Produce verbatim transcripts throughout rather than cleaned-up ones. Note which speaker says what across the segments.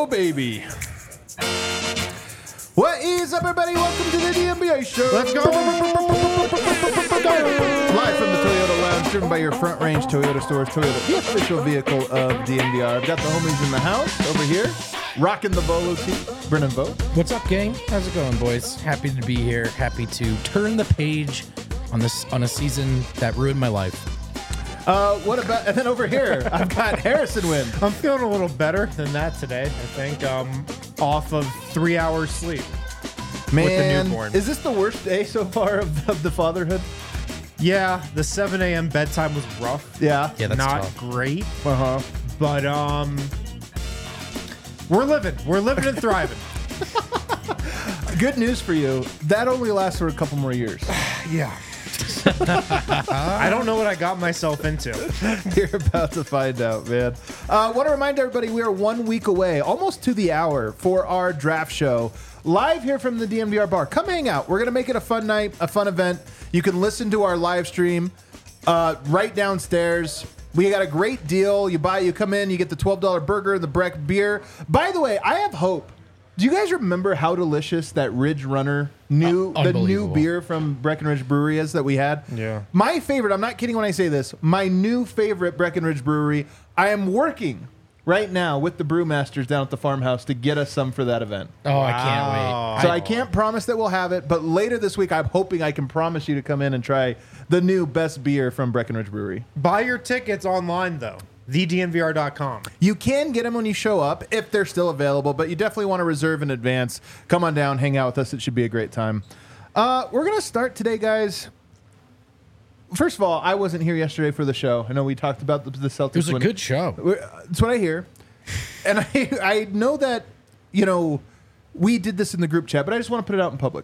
Speaker 1: baby. What is up, everybody? Welcome to the D M B A show.
Speaker 2: Let's go.
Speaker 1: Live from the Toyota Lounge, driven by your Front Range Toyota stores. Toyota, the official vehicle of D M D R. I've got the homies in the house over here, rocking the Volo team. Brennan Vogt.
Speaker 3: What's up, gang? How's it going, boys? Happy to be here. Happy to turn the page on this on a season that ruined my life.
Speaker 1: Uh, what about, and then over here, I've got Harrison Wynn.
Speaker 2: I'm feeling a little better than that today, I think. Um, off of three hours sleep.
Speaker 1: Man,
Speaker 2: with the newborn.
Speaker 1: Is this the worst day so far of, of the fatherhood?
Speaker 2: Yeah, the seven a.m. bedtime was rough.
Speaker 1: Yeah.
Speaker 3: Yeah, that's
Speaker 2: Not
Speaker 3: tough.
Speaker 2: great,
Speaker 1: Uh-huh.
Speaker 2: but um, we're living. We're living and thriving.
Speaker 1: Good news for you. That only lasts for a couple more years.
Speaker 2: Yeah. I don't know what I got myself into.
Speaker 1: You're about to find out, man. I uh, want to remind everybody we are one week away, almost to the hour, for our draft show. Live here from the D M V R bar. Come hang out. We're going to make it a fun night, a fun event. You can listen to our live stream uh, right downstairs. We got a great deal. You buy, you come in, you get the twelve dollar burger and the Breck beer. By the way, I have hope. Do you guys remember how delicious that Ridge Runner new
Speaker 3: Uh,
Speaker 1: the new
Speaker 3: unbelievable.
Speaker 1: beer from Breckenridge Brewery is that we had?
Speaker 2: Yeah.
Speaker 1: My favorite, I'm not kidding when I say this, my new favorite Breckenridge Brewery, I am working right now with the brewmasters down at the farmhouse to get us some for that event.
Speaker 3: Oh, I can't wait.
Speaker 1: So I can't promise that we'll have it, but later this week I'm hoping I can promise you to come in and try the new best beer from Breckenridge Brewery.
Speaker 2: Buy your tickets online, though. the D M V R dot com.
Speaker 1: You can get them when you show up if they're still available, but you definitely want to reserve in advance. Come on down, hang out with us. It should be a great time. Uh, we're going to start today, guys. First of all, I wasn't here yesterday for the show. I know we talked about the, the Celtics.
Speaker 3: It was a
Speaker 1: winning.
Speaker 3: good show.
Speaker 1: We're- That's what I hear. And I, I know that, you know, we did this in the group chat, but I just want to put it out in public.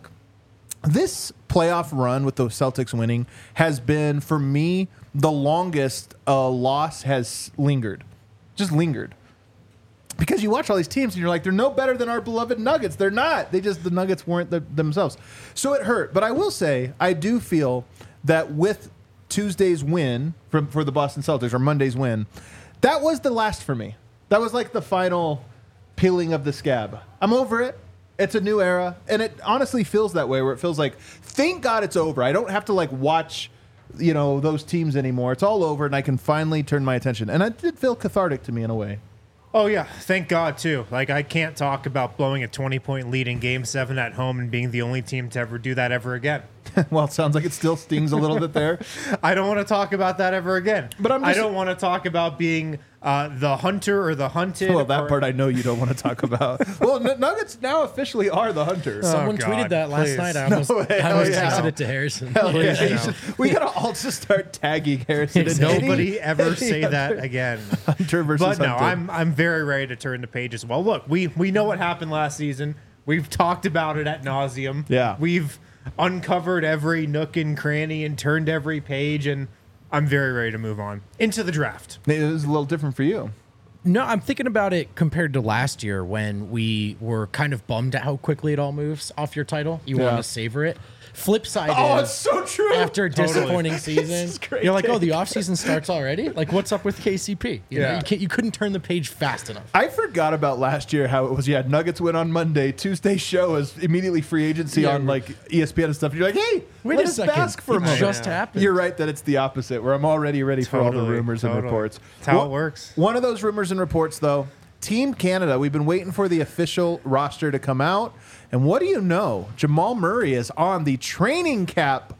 Speaker 1: This playoff run with the Celtics winning has been, for me, the longest a loss has lingered. Just lingered. Because you watch all these teams and you're like, they're no better than our beloved Nuggets. They're not. They just, the Nuggets weren't the, themselves. So it hurt. But I will say, I do feel that with Tuesday's win from, for the Boston Celtics, or Monday's win, that was the last for me. That was like the final peeling of the scab. I'm over it. It's a new era. And it honestly feels that way, where it feels like, thank God it's over. I don't have to like watch, you know, those teams anymore. It's all over and I can finally turn my attention. And it did feel cathartic to me in a way.
Speaker 2: Oh, yeah. Thank God, too. Like, I can't talk about blowing a twenty-point lead in Game seven at home and being the only team to ever do that ever again.
Speaker 1: Well, it sounds like it still stings a little bit there.
Speaker 2: I don't want to talk about that ever again.
Speaker 1: But I'm
Speaker 2: I
Speaker 1: just-
Speaker 2: don't want to talk about being uh, the hunter or the hunted.
Speaker 1: Well, that
Speaker 2: or-
Speaker 1: part I know you don't want to talk about. Well, N- Nuggets now officially are the hunters.
Speaker 3: Someone
Speaker 2: God,
Speaker 3: tweeted that last
Speaker 2: please.
Speaker 3: night. I almost,
Speaker 1: No way.
Speaker 3: I almost
Speaker 1: Oh, yeah.
Speaker 3: texted it to Harrison.
Speaker 1: Hell yeah.
Speaker 2: Please,
Speaker 1: You
Speaker 2: no.
Speaker 1: should- we gotta all just start tagging Harrison. and
Speaker 2: Nobody
Speaker 1: any-
Speaker 2: ever
Speaker 1: any
Speaker 2: say that
Speaker 1: hunter-
Speaker 2: again.
Speaker 1: Hunter versus
Speaker 2: But no,
Speaker 1: hunted.
Speaker 2: I'm I'm very ready to turn the page as well. Look, we we know what happened last season. We've talked about it at nauseum.
Speaker 1: Yeah.
Speaker 2: We've uncovered every nook and cranny and turned every page, and I'm very ready to move on into the draft.
Speaker 1: It was a little different for you.
Speaker 3: No, I'm thinking about it compared to last year when we were kind of bummed at how quickly it all moves off your title. You
Speaker 1: Yeah.
Speaker 3: want to savor it. Flip side
Speaker 1: Oh,
Speaker 3: is,
Speaker 1: it's so true.
Speaker 3: after a disappointing season,
Speaker 1: is great
Speaker 3: you're like, oh,
Speaker 1: take.
Speaker 3: the offseason starts already? Like, what's up with K C P? You know,
Speaker 2: Yeah.
Speaker 3: you, can't, you couldn't turn the page fast enough.
Speaker 1: I forgot about last year how it was. Yeah, Nuggets win on Monday. Tuesday show is immediately free agency
Speaker 3: Yeah.
Speaker 1: on like E S P N and stuff. You're like, hey,
Speaker 3: Wait
Speaker 1: let
Speaker 3: a
Speaker 1: us
Speaker 3: second.
Speaker 1: bask for a
Speaker 3: it
Speaker 1: moment.
Speaker 3: just
Speaker 2: Yeah.
Speaker 3: happened.
Speaker 1: You're right that it's the opposite, where I'm already ready for all the
Speaker 2: Totally,
Speaker 1: rumors and
Speaker 2: totally.
Speaker 1: reports.
Speaker 2: That's how
Speaker 1: Well,
Speaker 2: it works.
Speaker 1: One of those rumors and reports, though, Team Canada. We've been waiting for the official roster to come out, and what do you know? Jamal Murray is on the training cap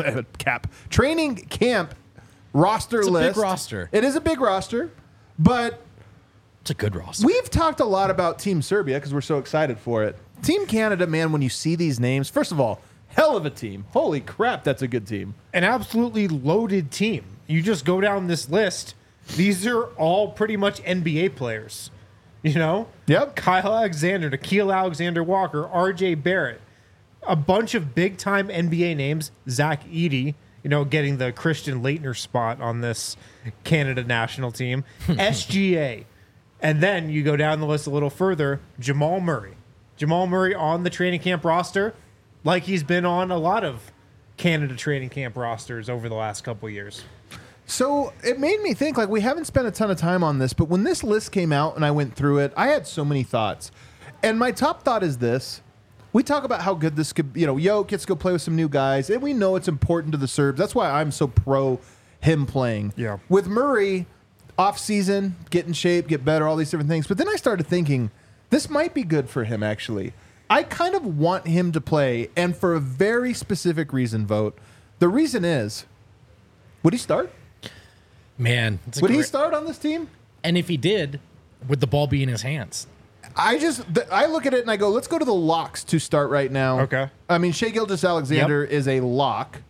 Speaker 1: cap training camp roster
Speaker 3: It's a big
Speaker 1: list.
Speaker 3: roster.
Speaker 1: It is a big roster, but
Speaker 3: It's a good roster.
Speaker 1: we've talked a lot about Team Serbia because we're so excited for it. Team Canada, man, when you see these names, first of all, hell of a team. Holy crap, that's a good team.
Speaker 2: An absolutely loaded team. You just go down this list. These are all pretty much N B A players. You know?
Speaker 1: Yep.
Speaker 2: Kyle Alexander, Nikhil Alexander Walker, R J Barrett. A bunch of big-time N B A names. Zach Edey, you know, getting the Christian Laettner spot on this Canada national team. S G A. And then you go down the list a little further, Jamal Murray. Jamal Murray on the training camp roster, like he's been on a lot of Canada training camp rosters over the last couple years.
Speaker 1: So it made me think, like, we haven't spent a ton of time on this, but when this list came out and I went through it, I had so many thoughts. And my top thought is this. We talk about how good this could, you know, Yo gets to go play with some new guys, and we know it's important to the Serbs. That's why I'm so pro him playing.
Speaker 2: Yeah.
Speaker 1: With Murray, off season, get in shape, get better, all these different things. But then I started thinking, this might be good for him, actually. I kind of want him to play, and for a very specific reason, Vote. The reason is, would he start?
Speaker 3: Man, it's a
Speaker 1: Would he
Speaker 3: great-
Speaker 1: start on this team?
Speaker 3: And if he did, would the ball be in his hands?
Speaker 1: I just th- I look at it and I go, let's go to the locks to start right now.
Speaker 2: Okay.
Speaker 1: I mean, Shai Gilgeous-Alexander is a lock.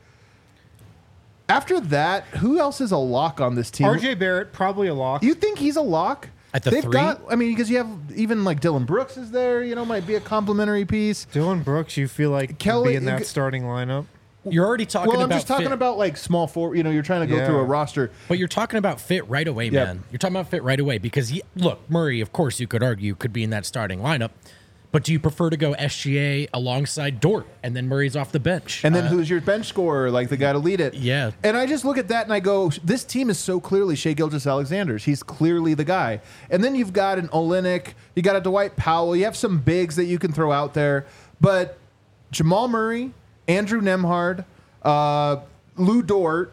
Speaker 1: After that, who else is a lock on this team?
Speaker 2: R J Barrett, probably a lock.
Speaker 1: You think he's a lock?
Speaker 3: At the
Speaker 1: They've
Speaker 3: three?
Speaker 1: got. I mean, because you have even like Dylan Brooks is there. You know, might be a complimentary piece.
Speaker 2: Dylan Brooks, you feel like
Speaker 1: Kelly-
Speaker 2: Kelly, be in that starting lineup?
Speaker 3: You're already talking
Speaker 1: Well, I'm
Speaker 3: about
Speaker 1: just talking
Speaker 3: fit,
Speaker 1: about like small four. You know, you're trying to go
Speaker 2: Yeah.
Speaker 1: through a roster.
Speaker 3: but you're talking about fit right away,
Speaker 1: Yep.
Speaker 3: man. You're talking about fit right away because he, look, Murray, of course, you could argue could be in that starting lineup, but do you prefer to go S G A alongside Dort and then Murray's off the bench?
Speaker 1: And then
Speaker 3: Uh,
Speaker 1: who's your bench scorer, like the guy to lead it?
Speaker 3: Yeah.
Speaker 1: And I just look at that and I go, this team is so clearly Shai Gilgeous-Alexander's. He's clearly the guy. And then you've got an Olynyk, you got a Dwight Powell, you have some bigs that you can throw out there. But Jamal Murray, Andrew Nemhard, uh, Lou Dort,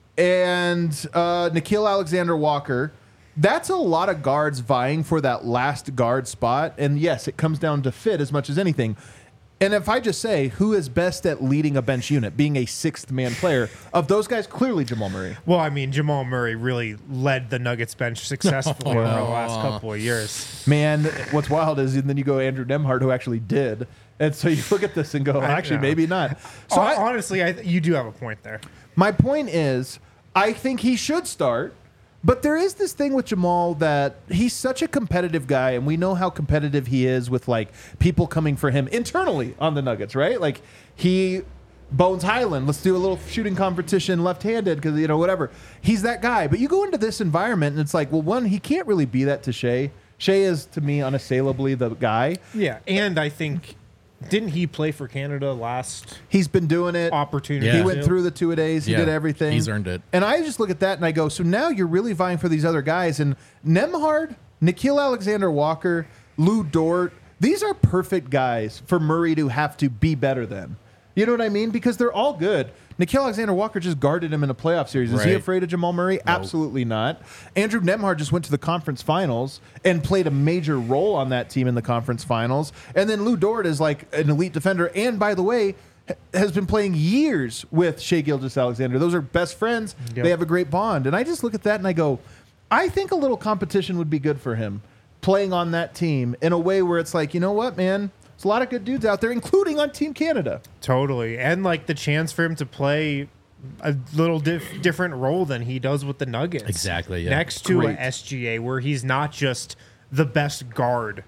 Speaker 1: and uh, Nikhil Alexander-Walker, that's a lot of guards vying for that last guard spot. And yes, it comes down to fit as much as anything. And if I just say who is best at leading a bench unit, being a sixth man player, of those guys, clearly Jamal Murray.
Speaker 2: Well, I mean, Jamal Murray really led the Nuggets bench successfully over the last couple of years.
Speaker 1: Man, what's wild is then you go Andrew Nemhard, who actually did. And so you look at this and go,
Speaker 2: I
Speaker 1: actually,
Speaker 2: know.
Speaker 1: maybe not. So
Speaker 2: So
Speaker 1: I,
Speaker 2: honestly, I, you do have a point there.
Speaker 1: my point is, I think he should start. But there is this thing with Jamal that he's such a competitive guy, and we know how competitive he is with like people coming for him internally on the Nuggets, right? Like he Bones Highland, let's do a little shooting competition left-handed because you know whatever. He's that guy. But you go into this environment and it's like, well, one, he can't really be that to Shai. Shai is to me unassailably the guy.
Speaker 2: Yeah, and I think didn't he play for Canada last
Speaker 1: He's been doing it.
Speaker 2: opportunity?
Speaker 3: Yeah.
Speaker 1: He went through the two a days. He
Speaker 3: Yeah,
Speaker 1: did everything.
Speaker 3: he's earned it.
Speaker 1: And I just look at that and I go, so now you're really vying for these other guys. And Nemhard, Nikhil Alexander-Walker, Lou Dort, these are perfect guys for Murray to have to be better than. You know what I mean? Because they're all good. Nikhil Alexander-Walker just guarded him in a playoff series. Is he
Speaker 3: Right.
Speaker 1: afraid of Jamal Murray? Absolutely not. Andrew Nemhard just went to the conference finals and played a major role on that team in the conference finals. And then Lou Dort is like an elite defender. And by the way, ha- has been playing years with Shai Gilgeous-Alexander. Those are best friends.
Speaker 2: Yep.
Speaker 1: They have a great bond. And I just look at that and I go, I think a little competition would be good for him playing on that team in a way where it's like, you know what, man? There's a lot of good dudes out there, including on Team Canada.
Speaker 2: Totally, and like the chance for him to play a little dif- different role than he does with the Nuggets.
Speaker 3: Exactly, yeah.
Speaker 2: Next to
Speaker 1: Great.
Speaker 2: a S G A where he's not just the best guard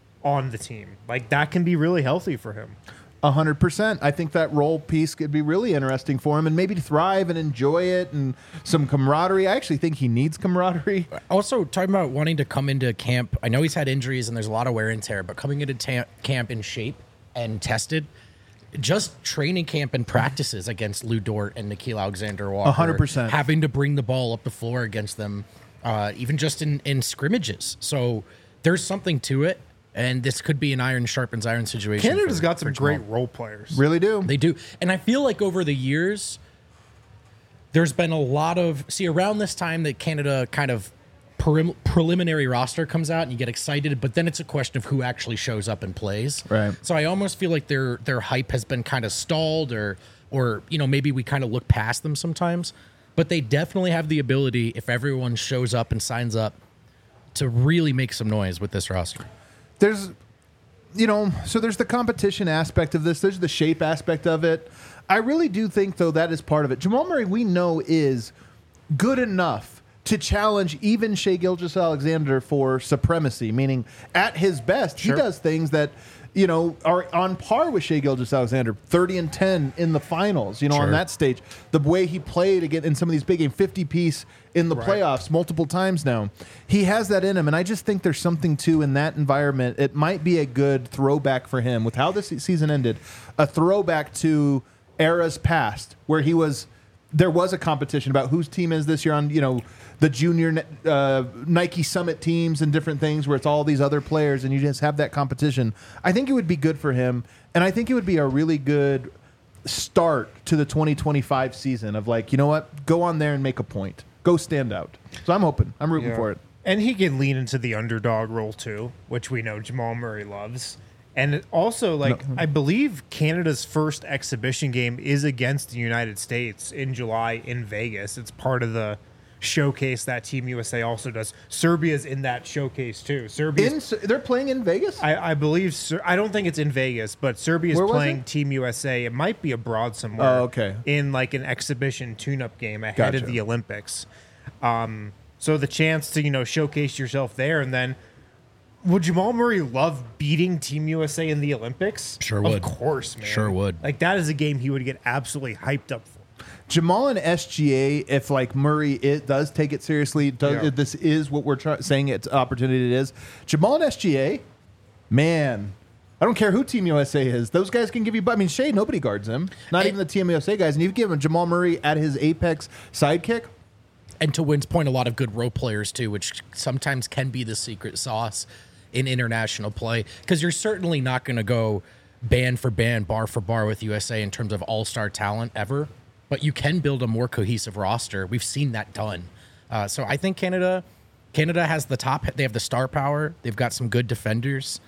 Speaker 2: on the team. Like that can be really healthy for him.
Speaker 1: A hundred percent. I think that role piece could be really interesting for him, and maybe to thrive and enjoy it, and some camaraderie. I actually think he needs camaraderie.
Speaker 3: Also, talking about wanting to come into camp, I know he's had injuries and there's a lot of wear and tear, but coming into ta- camp in shape and tested, just training camp and practices against Lou Dort and Nikhil Alexander-Walker.
Speaker 1: A hundred percent.
Speaker 3: Having to bring the ball up the floor against them, uh, even just in, in scrimmages. So there's something to it, and this could be an iron sharpens iron situation.
Speaker 2: Canada's
Speaker 3: for-
Speaker 2: got some
Speaker 3: for Jamal.
Speaker 2: great role players.
Speaker 1: Really do.
Speaker 3: They do. And I feel like over the years, there's been a lot of. See, around this time that Canada kind of prelim- preliminary roster comes out and you get excited, but then it's a question of who actually shows up and plays.
Speaker 1: Right.
Speaker 3: So I almost feel like their their hype has been kind of stalled, or or you know maybe we kind of look past them sometimes. But they definitely have the ability, if everyone shows up and signs up, to really make some noise with this roster.
Speaker 1: There's, you know, so there's the competition aspect of this. There's the shape aspect of it. I really do think, though, that is part of it. Jamal Murray, we know, is good enough to challenge even Shai Gilgeous-Alexander for supremacy, meaning at his best,
Speaker 2: Sure.
Speaker 1: he does things that, you know, are on par with Shai Gilgeous-Alexander, thirty and ten in the finals, you know, on
Speaker 3: Sure.
Speaker 1: that stage. The way he played again in some of these big games, fifty-piece in the
Speaker 2: Right.
Speaker 1: playoffs multiple times now. He has that in him, and I just think there's something, too, in that environment. It might be a good throwback for him with how this season ended, a throwback to eras past where he was there was a competition about whose team is this year on, you know, the junior uh, Nike Summit teams and different things where it's all these other players and you just have that competition. I think it would be good for him, and I think it would be a really good start to the twenty twenty-five season of like, you know what, go on there and make a point. Go stand out. So I'm hoping. I'm rooting
Speaker 2: Yeah.
Speaker 1: for it.
Speaker 2: And he can lean into the underdog role too, which we know Jamal Murray loves. And it also, like,
Speaker 1: No.
Speaker 2: I believe Canada's first exhibition game is against the United States in July in Vegas. It's part of the showcase that Team U S A also does. Serbia's in that showcase too. Serbia,
Speaker 1: In, they're playing in Vegas?
Speaker 2: I, I believe, Ser- I don't think it's in Vegas, but Serbia's
Speaker 1: Where was
Speaker 2: playing
Speaker 1: it?
Speaker 2: Team U S A. It might be abroad somewhere.
Speaker 1: Oh, okay.
Speaker 2: In like an exhibition tune-up game ahead
Speaker 1: Gotcha.
Speaker 2: of the Olympics. Um, so the chance to, you know, showcase yourself there, and then would Jamal Murray love beating Team U S A in the Olympics?
Speaker 3: Sure
Speaker 2: Of
Speaker 3: would.
Speaker 2: course, man.
Speaker 3: Sure would.
Speaker 2: Like, that is a game he would get absolutely hyped up for.
Speaker 1: Jamal and S G A, if like Murray it does take it seriously, does,
Speaker 2: Yeah.
Speaker 1: if this is what we're try- saying it's opportunity it is. Jamal and S G A, man, I don't care who Team U S A is. Those guys can give you. I mean, Shea, nobody guards him. Not
Speaker 3: And-
Speaker 1: even the Team U S A guys. And you give him Jamal Murray at his apex sidekick.
Speaker 3: And to Wynn's point, a lot of good role players too, which sometimes can be the secret sauce in international play. Because you're certainly not going to go band for band, bar for bar with U S A in terms of all-star talent ever. But you can build a more cohesive roster. We've seen that done. Uh, so I think Canada, Canada has the top. They have the star power. They've got some good defenders.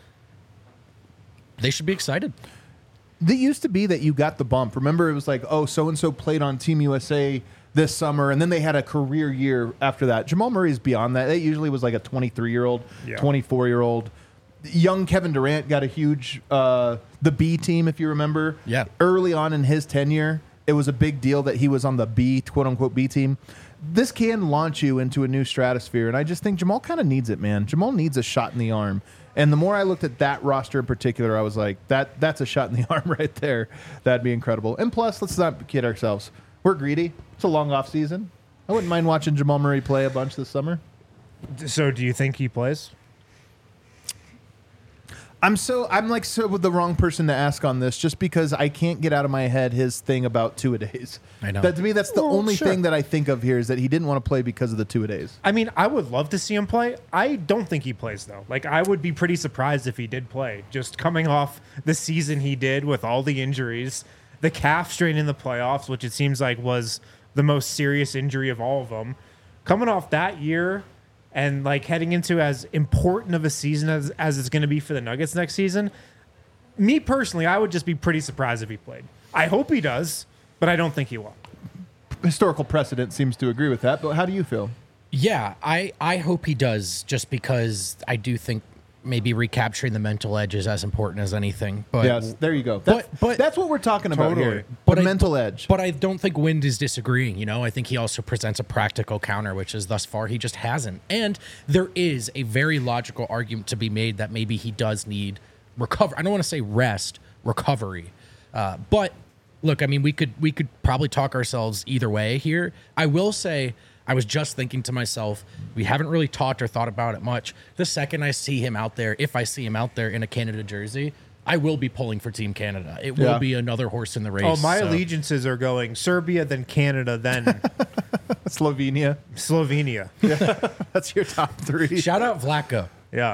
Speaker 3: They should be excited.
Speaker 1: It used to be that you got the bump. Remember, it was like, oh, so and so played on Team U S A this summer, and then they had a career year after that. Jamal Murray's beyond that. It usually was like a twenty-three-year-old,
Speaker 2: Yeah.
Speaker 1: twenty-four-year-old. Young Kevin Durant got a huge uh, the B team, if you remember.
Speaker 3: Yeah.
Speaker 1: Early on in his tenure, it was a big deal that he was on the B, quote unquote, B team. This can launch you into a new stratosphere, and I just think Jamal kind of needs it, man. Jamal needs a shot in the arm. And the more I looked at that roster in particular, I was like, that that's a shot in the arm right there. That'd be incredible. And plus, let's not kid ourselves. We're greedy. It's a long off season. I wouldn't mind watching Jamal Murray play a bunch this summer.
Speaker 2: So do you think he plays?
Speaker 1: I'm so I'm like so the wrong person to ask on this, just because I can't get out of my head his thing about two a days.
Speaker 3: I know.
Speaker 1: That to me, that's the
Speaker 2: Well,
Speaker 1: only
Speaker 2: sure.
Speaker 1: thing that I think of here is that he didn't want to play because of the two a days.
Speaker 2: I mean, I would love to see him play. I don't think he plays, though. Like, I would be pretty surprised if he did play. Just coming off the season he did with all the injuries, the calf strain in the playoffs, which it seems like was the most serious injury of all of them. Coming off that year and, like, heading into as important of a season as, as it's going to be for the Nuggets next season, me personally, I would just be pretty surprised if he played. I hope he does, but I don't think he will.
Speaker 1: Historical precedent seems to agree with that, but how do you feel?
Speaker 3: Yeah, I, I hope he does, just because I do think maybe recapturing the mental edge is as important as anything. But
Speaker 1: Yes, there you go. That's,
Speaker 3: But- but-
Speaker 1: that's what we're talking about
Speaker 2: Totally.
Speaker 1: here.
Speaker 3: But
Speaker 1: the
Speaker 3: I-
Speaker 1: mental edge.
Speaker 3: But I don't think Wind is disagreeing. You know, I think he also presents a practical counter, which is thus far he just hasn't. And there is a very logical argument to be made that maybe he does need recover. I don't want to say rest, recovery. Uh, but look, I mean, we could we could probably talk ourselves either way here. I will say, I was just thinking to myself, we haven't really talked or thought about it much. The second I see him out there, if I see him out there in a Canada jersey, I will be pulling for Team Canada. It will
Speaker 1: Yeah.
Speaker 3: be another horse in the race.
Speaker 2: Oh, my
Speaker 3: so-
Speaker 2: allegiances are going Serbia, then Canada, then
Speaker 1: Slovenia.
Speaker 2: Slovenia.
Speaker 1: That's your top three.
Speaker 3: Shout out Vlaco.
Speaker 2: Yeah.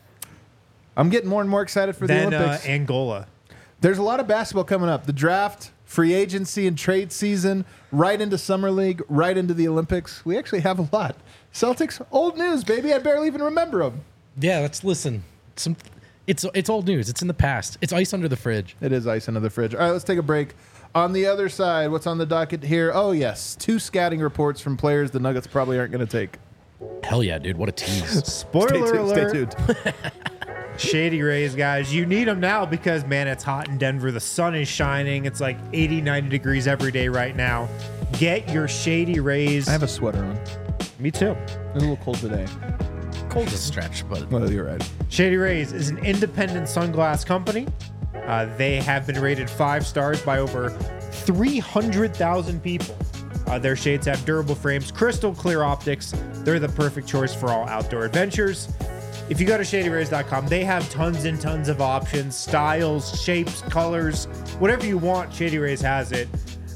Speaker 1: I'm getting more and more excited for the
Speaker 2: Then uh,
Speaker 1: Olympics.
Speaker 2: Angola.
Speaker 1: There's a lot of basketball coming up. The draft, free agency, and trade season, right into Summer League, right into the Olympics. We actually have a lot. Celtics, old news, baby. I barely even remember them.
Speaker 3: Yeah, let's listen. Some, it's it's old news. It's in the past. It's ice under the fridge.
Speaker 1: It is ice under the fridge. All right, let's take a break. On the other side, what's on the docket here? Oh, yes. Two scouting reports from players the Nuggets probably aren't going to take.
Speaker 3: Hell yeah, dude! What a tease.
Speaker 2: Spoiler
Speaker 1: Stay tuned.
Speaker 2: alert.
Speaker 1: Stay tuned.
Speaker 2: Shady Rays, guys. You need them now because, man, it's hot in Denver. The sun is shining. It's like eighty, ninety degrees every day right now. Get your Shady Rays.
Speaker 1: I have a sweater on.
Speaker 2: Me too.
Speaker 1: It's a little cold today.
Speaker 3: Cold to stretch, but
Speaker 1: Well, you're right.
Speaker 2: Shady Rays is an independent sunglass company. Uh, they have been rated five stars by over three hundred thousand people. Uh, their shades have durable frames, crystal clear optics. They're the perfect choice for all outdoor adventures. If you go to shady rays dot com, they have tons and tons of options, styles, shapes, colors, whatever you want, Shady Rays has it.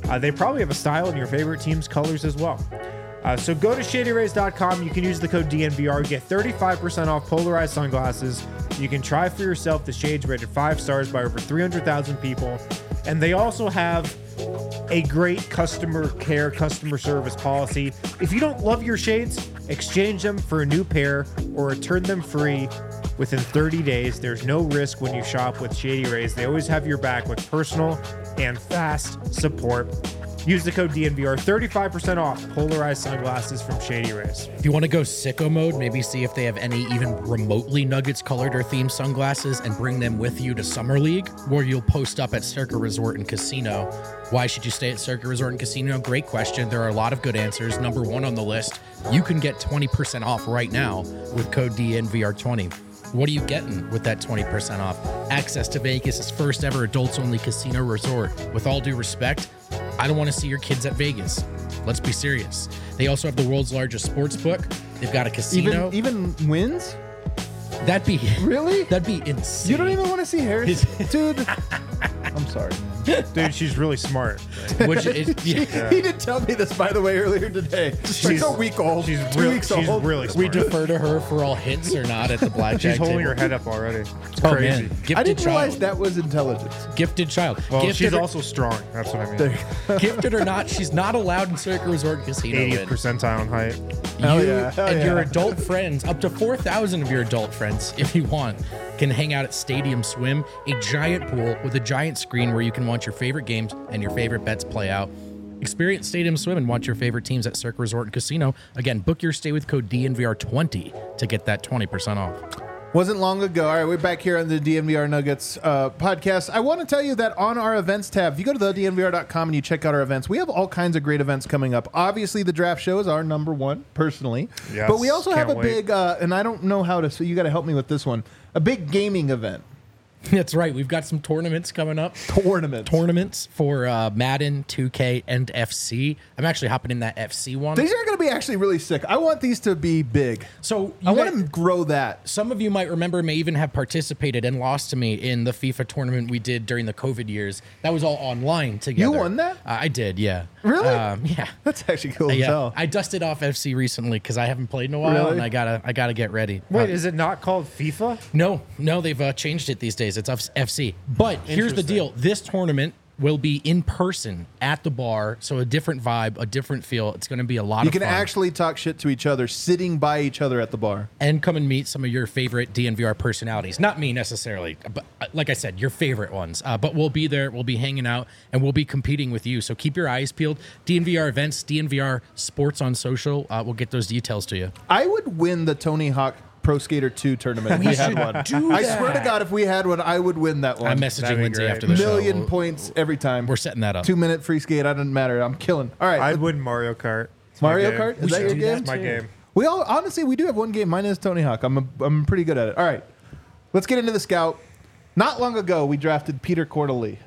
Speaker 2: Uh, they probably have a style in your favorite team's colors as well. Uh, so go to shady rays dot com. You can use the code D N V R. Get thirty-five percent off polarized sunglasses. You can try for yourself the shades rated five stars by over three hundred thousand people. And they also have a great customer care, customer service policy. If you don't love your shades, exchange them for a new pair or return them free within thirty days. There's no risk when you shop with Shady Rays. They always have your back with personal and fast support. Use the code D N V R, thirty-five percent off polarized sunglasses from Shady Rays.
Speaker 3: If you want to go sicko mode, maybe see if they have any even remotely Nuggets colored or themed sunglasses and bring them with you to Summer League, where you'll post up at Circa Resort and Casino. Why should you stay at Circa Resort and Casino? Great question. There are a lot of good answers. Number one on the list, you can get twenty percent off right now with code D N V R twenty. What are you getting with that twenty percent off? Access to Vegas' first ever adults-only casino resort. With all due respect, I don't want to see your kids at Vegas. Let's be serious. They also have the world's largest sports book. They've got a casino.
Speaker 1: Even even wins?
Speaker 3: That'd be
Speaker 1: Really?
Speaker 3: That'd be insane.
Speaker 1: You don't even want to see Harris, dude. I'm sorry, man.
Speaker 2: Dude, she's really smart.
Speaker 3: Which is, yeah.
Speaker 1: He did tell me this, by the way, earlier today. She's like a week old.
Speaker 2: She's
Speaker 1: two
Speaker 2: real-
Speaker 1: weeks
Speaker 2: she's
Speaker 1: old.
Speaker 2: really
Speaker 3: We
Speaker 2: smart.
Speaker 3: defer to her for all hits or not at the blackjack
Speaker 2: She's holding
Speaker 3: table.
Speaker 2: her head up already. It's
Speaker 3: Oh,
Speaker 2: crazy.
Speaker 3: man. Gifted
Speaker 1: I didn't
Speaker 3: child.
Speaker 1: realize that was intelligence.
Speaker 3: Gifted child.
Speaker 2: Well,
Speaker 3: Gifted
Speaker 2: she's
Speaker 3: or,
Speaker 2: also strong. That's what I mean.
Speaker 1: There-
Speaker 3: gifted or not, she's not allowed in Circa Resort and Casino.
Speaker 2: eightieth
Speaker 3: Win.
Speaker 2: percentile in height.
Speaker 1: Hell
Speaker 3: You
Speaker 1: yeah, hell
Speaker 3: and your
Speaker 1: yeah.
Speaker 3: adult friends, up to four thousand of your adult friends, if you want, can hang out at Stadium Swim, a giant pool with a giant screen where you can watch your favorite games and your favorite bets play out. Experience Stadium Swim and watch your favorite teams at Circa Resort and Casino. Again, book your stay with code D N V R twenty to get that twenty percent off.
Speaker 1: Wasn't long ago. All right, we're back here on the D N V R Nuggets uh, podcast. I want to tell you that on our events tab, if you go to the D N V R dot com and you check out our events, we have all kinds of great events coming up. Obviously, the draft show is our number one, personally.
Speaker 2: Yes,
Speaker 1: but we also have a
Speaker 2: can't wait.
Speaker 1: big, uh, and I don't know how to, so you got to help me with this one, a big gaming event.
Speaker 3: That's right. We've got some tournaments coming up.
Speaker 1: Tournament.
Speaker 3: Tournaments for uh, Madden, two K, and F C. I'm actually hopping in that F C one.
Speaker 1: These are going to be actually really sick. I want these to be big.
Speaker 3: So
Speaker 1: I
Speaker 3: you
Speaker 1: want
Speaker 3: guys-
Speaker 1: to grow that.
Speaker 3: Some of you might remember may even have participated and lost to me in the FIFA tournament we did during the COVID years. That was all online together.
Speaker 1: You won that?
Speaker 3: Uh, I did, yeah.
Speaker 1: Really?
Speaker 3: Um, yeah.
Speaker 1: That's actually cool as
Speaker 3: Yeah,
Speaker 1: hell.
Speaker 3: I dusted off F C recently because I haven't played in a while,
Speaker 1: Really?
Speaker 3: and I gotta, I gotta get ready.
Speaker 2: Wait,
Speaker 3: Uh,
Speaker 2: is it not called FIFA?
Speaker 3: no, no, they've uh, changed it these days. It's F- FC. But here's the
Speaker 2: Interesting.
Speaker 3: deal: this tournament will be in person at the bar, so a different vibe, a different feel. It's going to be a lot
Speaker 1: You
Speaker 3: of
Speaker 1: can
Speaker 3: fun.
Speaker 1: actually talk shit to each other sitting by each other at the bar.
Speaker 3: and come and meet some of your favorite D N V R personalities. Not me necessarily, but uh, like I said, your favorite ones. Uh, but we'll be there, we'll be hanging out, and we'll be competing with you. So keep your eyes peeled. D N V R events, D N V R sports on social. Uh, we'll get those details to you.
Speaker 1: I would win the Tony Hawk Pro Skater two tournament if we, had one.
Speaker 3: do
Speaker 1: I swear to God, if we had one, I would win that one.
Speaker 3: I'm
Speaker 2: That'd
Speaker 3: messaging
Speaker 2: be
Speaker 3: Lindsay
Speaker 2: great.
Speaker 3: after the
Speaker 1: Million
Speaker 3: show. We're-
Speaker 1: points every time.
Speaker 3: We're setting that up.
Speaker 1: Two minute free skate. I doesn't matter. I'm killing. All right,
Speaker 2: I'd win Mario Kart. It's my
Speaker 1: Mario
Speaker 2: game.
Speaker 1: Kart. Is
Speaker 3: We
Speaker 1: that
Speaker 3: should
Speaker 1: your
Speaker 3: do
Speaker 1: game?
Speaker 3: that
Speaker 2: It's my
Speaker 3: too.
Speaker 2: game.
Speaker 1: We all honestly we do have one game. Mine is Tony Hawk. I'm a, I'm pretty good at it. All right, let's get into the scout. Not long ago, we drafted Peter Cordeley.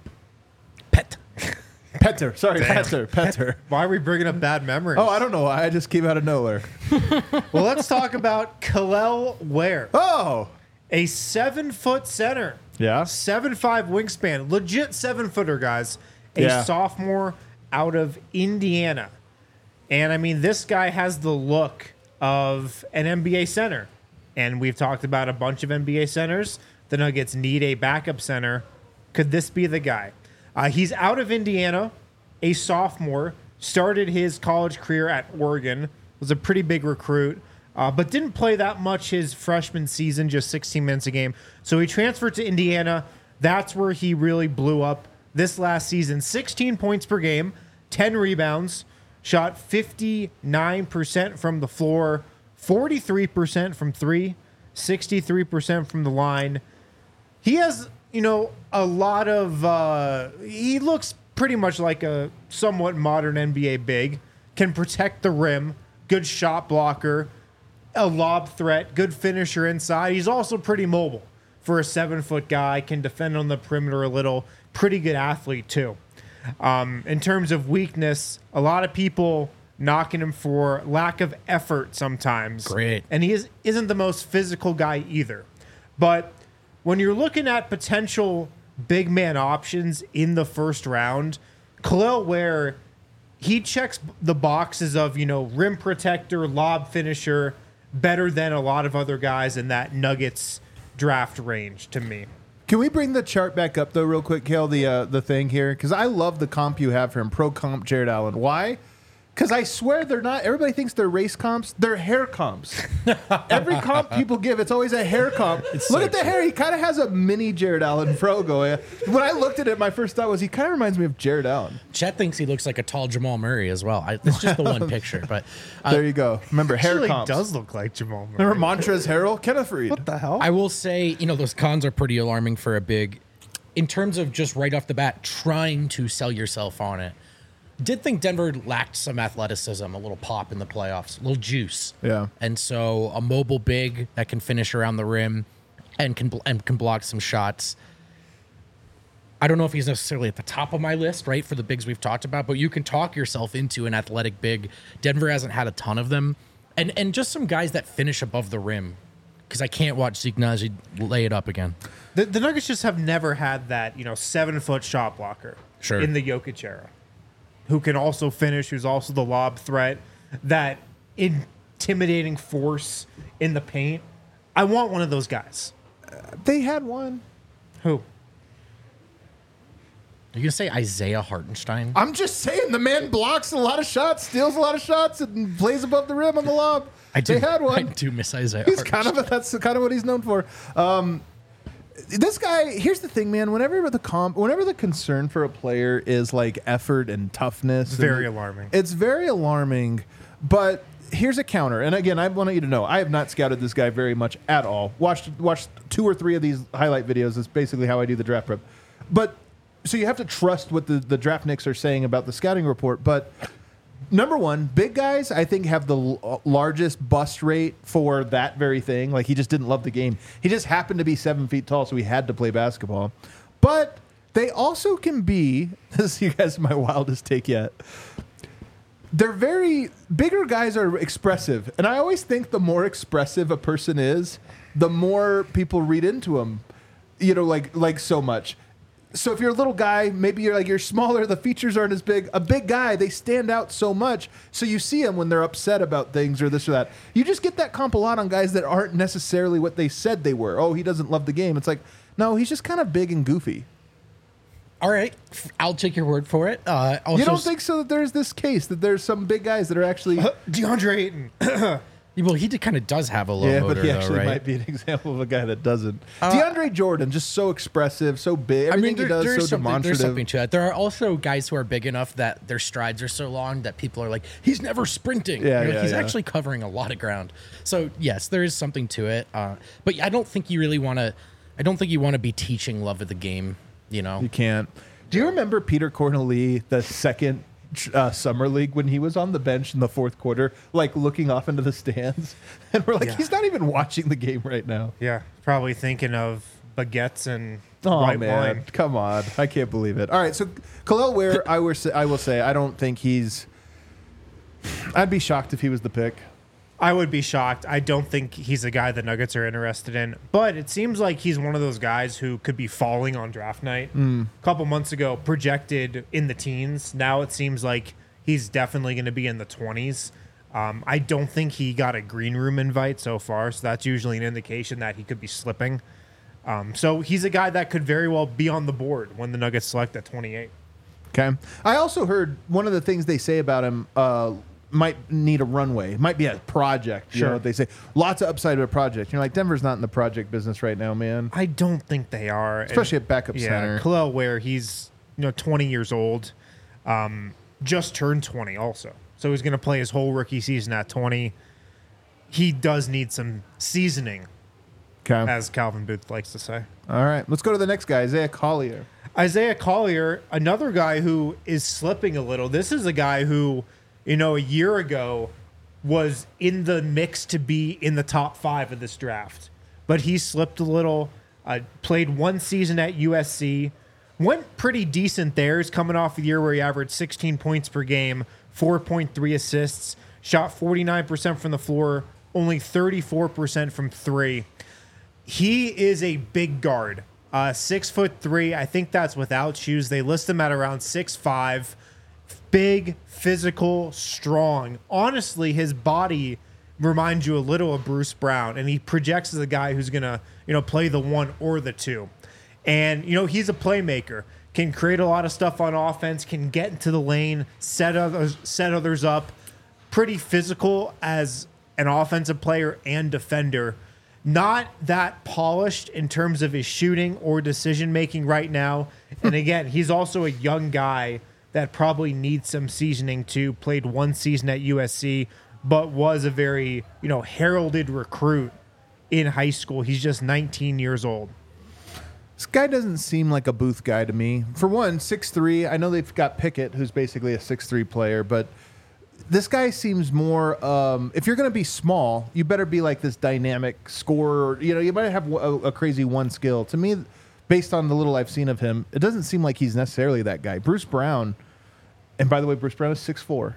Speaker 3: Pet.
Speaker 1: Petter, sorry, Petter, Petter.
Speaker 2: Why are we bringing up bad memories?
Speaker 1: Oh, I don't know why. I just came out of nowhere.
Speaker 2: Well, let's talk about Kalel Ware,
Speaker 1: Oh,
Speaker 2: a seven-foot center,
Speaker 1: yeah.
Speaker 2: seven five wingspan, legit seven-footer, guys. A
Speaker 1: Yeah.
Speaker 2: sophomore out of Indiana. And, I mean, this guy has the look of an N B A center. And we've talked about a bunch of N B A centers. The Nuggets need a backup center. Could this be the guy? Uh, he's out of Indiana, a sophomore, started his college career at Oregon, was a pretty big recruit, uh, but didn't play that much his freshman season, just sixteen minutes a game. So he transferred to Indiana. That's where he really blew up this last season. sixteen points per game, ten rebounds, shot fifty-nine percent from the floor, forty-three percent from three, sixty-three percent from the line. He has, you know, a lot of, uh, he looks pretty much like a somewhat modern N B A big, can protect the rim, good shot blocker, a lob threat, good finisher inside. He's also pretty mobile for a seven foot guy, can defend on the perimeter a little, pretty good athlete too. Um, in terms of weakness, a lot of people knocking him for lack of effort sometimes.
Speaker 3: Great.
Speaker 2: And he is, isn't the most physical guy either. But when you're looking at potential big man options in the first round, Khalil Ware, he checks the boxes of, you know, rim protector, lob finisher, better than a lot of other guys in that Nuggets draft range to me.
Speaker 1: Can we bring the chart back up though, real quick, Kale? The uh, the thing here, because I love the comp you have for him. Pro comp Jared Allen. Why? Because I swear they're not. Everybody thinks they're race comps. They're hair comps. Every comp people give, it's always a hair comp. Look
Speaker 3: so
Speaker 1: at the hair. He kind of has a mini Jared Allen fro going. When I looked at it, my first thought was he kind of reminds me of Jared Allen.
Speaker 3: Chet thinks he looks like a tall Jamal Murray as well. I, it's just the one picture, but uh,
Speaker 1: There you go. Remember hair
Speaker 2: Actually
Speaker 1: comps.
Speaker 2: does look like Jamal Murray.
Speaker 1: Remember Montrezl Harrell, Kenneth Reed.
Speaker 2: What the hell?
Speaker 3: I will say, you know, those cons are pretty alarming for a big. In terms of just right off the bat, trying to sell yourself on it. Did think Denver lacked some athleticism, a little pop in the playoffs, a little juice.
Speaker 1: Yeah.
Speaker 3: And so a mobile big that can finish around the rim and can and can block some shots. I don't know if he's necessarily at the top of my list, right, for the bigs we've talked about, but you can talk yourself into an athletic big. Denver hasn't had a ton of them. And and just some guys that finish above the rim, because I can't watch Zeke Naji lay it up again.
Speaker 2: The, the Nuggets just have never had that, you know, seven-foot shot blocker
Speaker 3: Sure.
Speaker 2: in the Jokic era, who can also finish, who's also the lob threat, that intimidating force in the paint. I want one of those guys.
Speaker 1: They had one.
Speaker 2: Who?
Speaker 3: Are you going to say Isaiah Hartenstein?
Speaker 1: I'm just saying the man blocks a lot of shots, steals a lot of shots, and plays above the rim on the lob.
Speaker 3: I do,
Speaker 1: they had one.
Speaker 3: I do miss Isaiah
Speaker 1: He's
Speaker 3: Hartenstein.
Speaker 1: kind of a, that's kind of what he's known for. Um, this guy, here's the thing, man. Whenever the comp, whenever the concern for a player is like effort and toughness,
Speaker 2: Very
Speaker 1: and
Speaker 2: alarming.
Speaker 1: It's very alarming. But here's a counter. And again, I want you to know, I have not scouted this guy very much at all. Watched watched two or three of these highlight videos. Is basically how I do the draft prep. But so you have to trust what the the draft nicks are saying about the scouting report. But number one, big guys, I think, have the l- largest bust rate for that very thing. Like, he just didn't love the game. He just happened to be seven feet tall, so he had to play basketball. But they also can be, this is you guys my wildest take yet, they're very, bigger guys are expressive. And I always think the more expressive a person is, the more people read into them, you know, like like so much. So if you're a little guy, maybe you're like you're smaller, the features aren't as big. A big guy, they stand out so much. So you see them when they're upset about things or this or that. You just get that comp a lot on guys that aren't necessarily what they said they were. Oh, he doesn't love the game. It's like, no, he's just kind of big and goofy.
Speaker 3: All right, I'll take your word for it. Uh, also,
Speaker 1: You don't think so that there's this case that there's some big guys that are actually
Speaker 2: DeAndre Ayton.
Speaker 3: well, he kind of does have a low
Speaker 1: yeah,
Speaker 3: motor,
Speaker 1: but he
Speaker 3: though,
Speaker 1: actually
Speaker 3: right?
Speaker 1: might be an example of a guy that doesn't. DeAndre Jordan, just so expressive, so big.
Speaker 3: I
Speaker 1: Everything
Speaker 3: mean, there,
Speaker 1: he does
Speaker 3: there's,
Speaker 1: so
Speaker 3: something, there's
Speaker 1: demonstrative.
Speaker 3: something to that. There are also guys who are big enough that their strides are so long that people are like, he's never sprinting.
Speaker 1: Yeah,
Speaker 3: You know,
Speaker 1: yeah,
Speaker 3: he's
Speaker 1: yeah.
Speaker 3: actually covering a lot of ground. So yes, there is something to it. Uh, but I don't think you really want to. I don't think you want to be teaching love of the game. You know,
Speaker 1: You can't. Do you remember Peter Corneli, the second uh, summer league, when he was on the bench in the fourth quarter, like looking off into the stands? And we're like,
Speaker 2: Yeah.
Speaker 1: he's not even watching the game right now.
Speaker 2: Yeah, probably thinking of baguettes and
Speaker 1: Oh,
Speaker 2: white
Speaker 1: man.
Speaker 2: wine.
Speaker 1: Come on. I can't believe it. All right. So, Khalil Ware, I, will say, I will say, I don't think he's. I'd be shocked if he was the pick.
Speaker 2: I would be shocked. I don't think he's a guy the Nuggets are interested in, but it seems like he's one of those guys who could be falling on draft night. A couple months ago, projected in the teens. Now it seems like he's definitely going to be in the twenties. Um, I don't think he got a green room invite so far, so that's usually an indication that he could be slipping. Um, so he's a guy that could very well be on the board when the Nuggets select at twenty-eight.
Speaker 1: Okay. I also heard one of the things they say about him uh, might need a runway. It might be a project. You
Speaker 2: Sure.
Speaker 1: know what they say? Lots of upside to a project. You're like, Denver's not in the project business right now, man.
Speaker 2: I don't think they are,
Speaker 1: Especially
Speaker 2: And-
Speaker 1: at backup
Speaker 2: yeah,
Speaker 1: center.
Speaker 2: Khalil Ware, he's you know twenty years old, um, just turned twenty also, so he's going to play his whole rookie season at twenty. He does need some seasoning,
Speaker 1: Okay.
Speaker 2: as Calvin Booth likes to say.
Speaker 1: All right. Let's go to the next guy, Isaiah Collier.
Speaker 2: Isaiah Collier, another guy who is slipping a little. This is a guy who, you know, a year ago was in the mix to be in the top five of this draft, but he slipped a little. Uh, played one season at U S C, went pretty decent there. He's coming off a year where he averaged sixteen points per game, four point three assists, shot forty-nine percent from the floor, only thirty-four percent from three. He is a big guard Uh, six foot three. I think that's without shoes. They list him at around six five. Big, physical, strong. Honestly, his body reminds you a little of Bruce Brown, and he projects as a guy who's gonna, you know, play the one or the two. And you know, he's a playmaker. Can create a lot of stuff on offense. Can get into the lane, set others, set others up. Pretty physical as an offensive player and defender. Not that polished in terms of his shooting or decision making right now. And again, he's also a young guy that probably needs some seasoning too. Played one season at U S C, but was a very, you know, heralded recruit in high school. He's just nineteen years old.
Speaker 1: This guy doesn't seem like a Booth guy to me. For one, six three. I know they've got Pickett, who's basically a six three player, but this guy seems more, um, if you're going to be small, you better be like this dynamic scorer. You know, you might have a, a crazy one skill. To me, based on the little I've seen of him, it doesn't seem like he's necessarily that guy. Bruce Brown, and by the way, Bruce Brown is six four.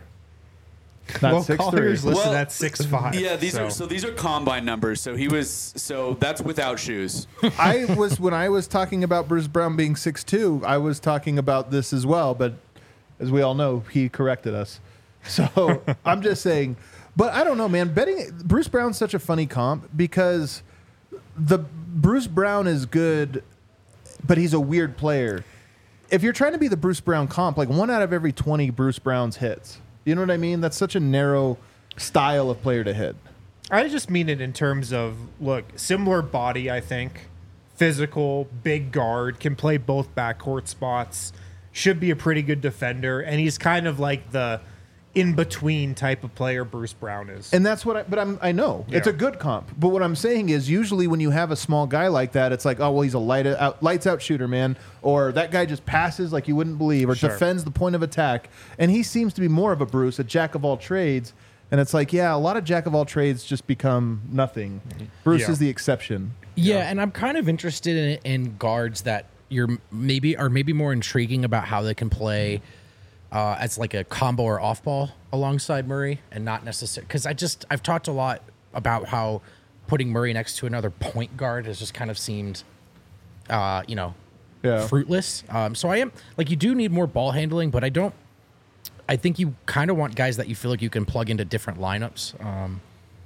Speaker 1: Not
Speaker 2: Well,
Speaker 1: six three.
Speaker 2: Collier's listed
Speaker 4: Well,
Speaker 2: at six five.
Speaker 4: Yeah, these
Speaker 2: so.
Speaker 4: are so these are combine numbers. So he was so that's without shoes.
Speaker 1: I was when I was talking about Bruce Brown being six two, I was talking about this as well, but as we all know, he corrected us. So I'm just saying, but I don't know, man. Betting Bruce Brown's such a funny comp because the Bruce Brown is good, but he's a weird player. If you're trying to be the Bruce Brown comp, like one out of every twenty Bruce Browns hits. You know what I mean? That's such a narrow style of player to hit.
Speaker 2: I just mean it in terms of, look, similar body, I think. Physical, big guard, can play both backcourt spots, should be a pretty good defender, and he's kind of like the in-between type of player Bruce Brown is.
Speaker 1: And that's what I, but I'm, I know. It's
Speaker 2: Yeah.
Speaker 1: a good comp. But what I'm saying is usually when you have a small guy like that, it's like, oh, well, he's a light out, lights out shooter, man. Or that guy just passes like you wouldn't believe or
Speaker 2: Sure.
Speaker 1: defends the point of attack. And he seems to be more of a Bruce, a jack of all trades. And it's like, yeah, a lot of jack of all trades just become nothing. Bruce
Speaker 2: Yeah.
Speaker 1: is the exception.
Speaker 3: Yeah, and I'm kind of interested in, in guards that you're maybe are maybe more intriguing about how they can play uh, as like a combo or off ball alongside Murray, and not necessarily because I just I've talked a lot about how putting Murray next to another point guard has just kind of seemed, uh, you know,
Speaker 1: Yeah.
Speaker 3: fruitless. Um, so I am like you do need more ball handling, but I don't. I think you kind of want guys that you feel like you can plug into different lineups. Um,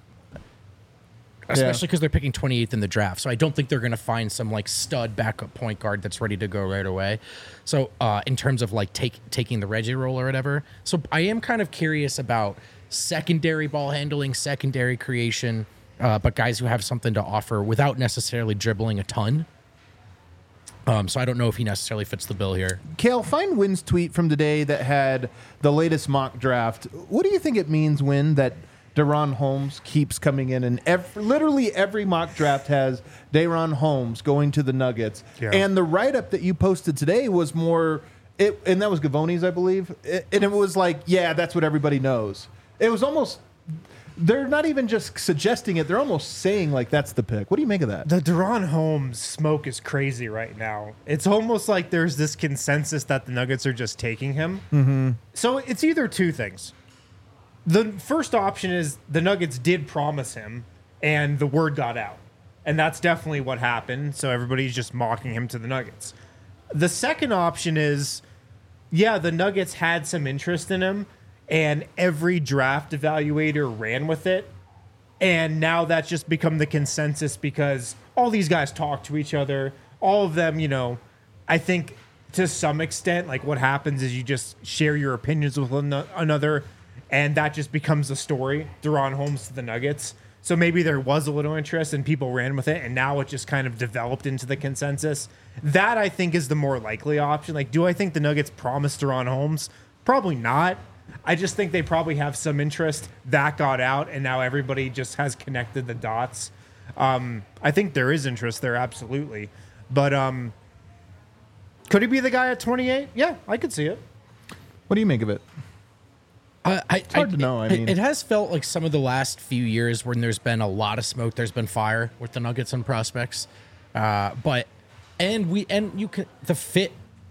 Speaker 3: Especially because they're picking twenty-eighth in the draft. So I don't think they're going to find some like stud backup point guard that's ready to go right away. So uh, in terms of like take, taking the Reggie role or whatever. So I am kind of curious about secondary ball handling, secondary creation, uh, but guys who have something to offer without necessarily dribbling a ton. Um, so I don't know if he necessarily fits the bill here.
Speaker 1: Kale, find Wynn's tweet from today that had the latest mock draft. What do you think it means, Wynn, that Deron Holmes keeps coming in, and every, literally every mock draft has Deron Holmes going to the Nuggets.
Speaker 2: Yeah.
Speaker 1: And the write-up that you posted today was more, it, and that was Gavoni's, I believe, it, and it was like, yeah, that's what everybody knows. It was almost, they're not even just suggesting it, they're almost saying like that's the pick. What do you make of that?
Speaker 2: The Deron Holmes smoke is crazy right now. It's almost like there's this consensus that the Nuggets are just taking him. Mm-hmm. So it's either two things. The first option is the Nuggets did promise him, and the word got out. And that's definitely what happened, so everybody's just mocking him to the Nuggets. The second option is, yeah, the Nuggets had some interest in him, and every draft evaluator ran with it. And now that's just become the consensus because all these guys talk to each other. All of them, you know, I think to some extent, like what happens is you just share your opinions with one another, and that just becomes the story. Deron Holmes to the Nuggets. So maybe there was a little interest and people ran with it, and now it just kind of developed into the consensus. That, I think, is the more likely option. Like, do I think the Nuggets promised Deron Holmes? Probably not. I just think they probably have some interest. That got out, and now everybody just has connected the dots. Um, I think there is interest there, absolutely. But um, could he be the guy at twenty-eight? Yeah, I could see it.
Speaker 1: What do you make of it?
Speaker 3: Uh, I,
Speaker 1: It's hard
Speaker 3: I,
Speaker 1: to know, I
Speaker 3: it-
Speaker 1: mean-
Speaker 3: it has felt like some of the last few years when there's been a lot of smoke, there's been fire with the Nuggets and prospects. Uh, but and we and you can the fit.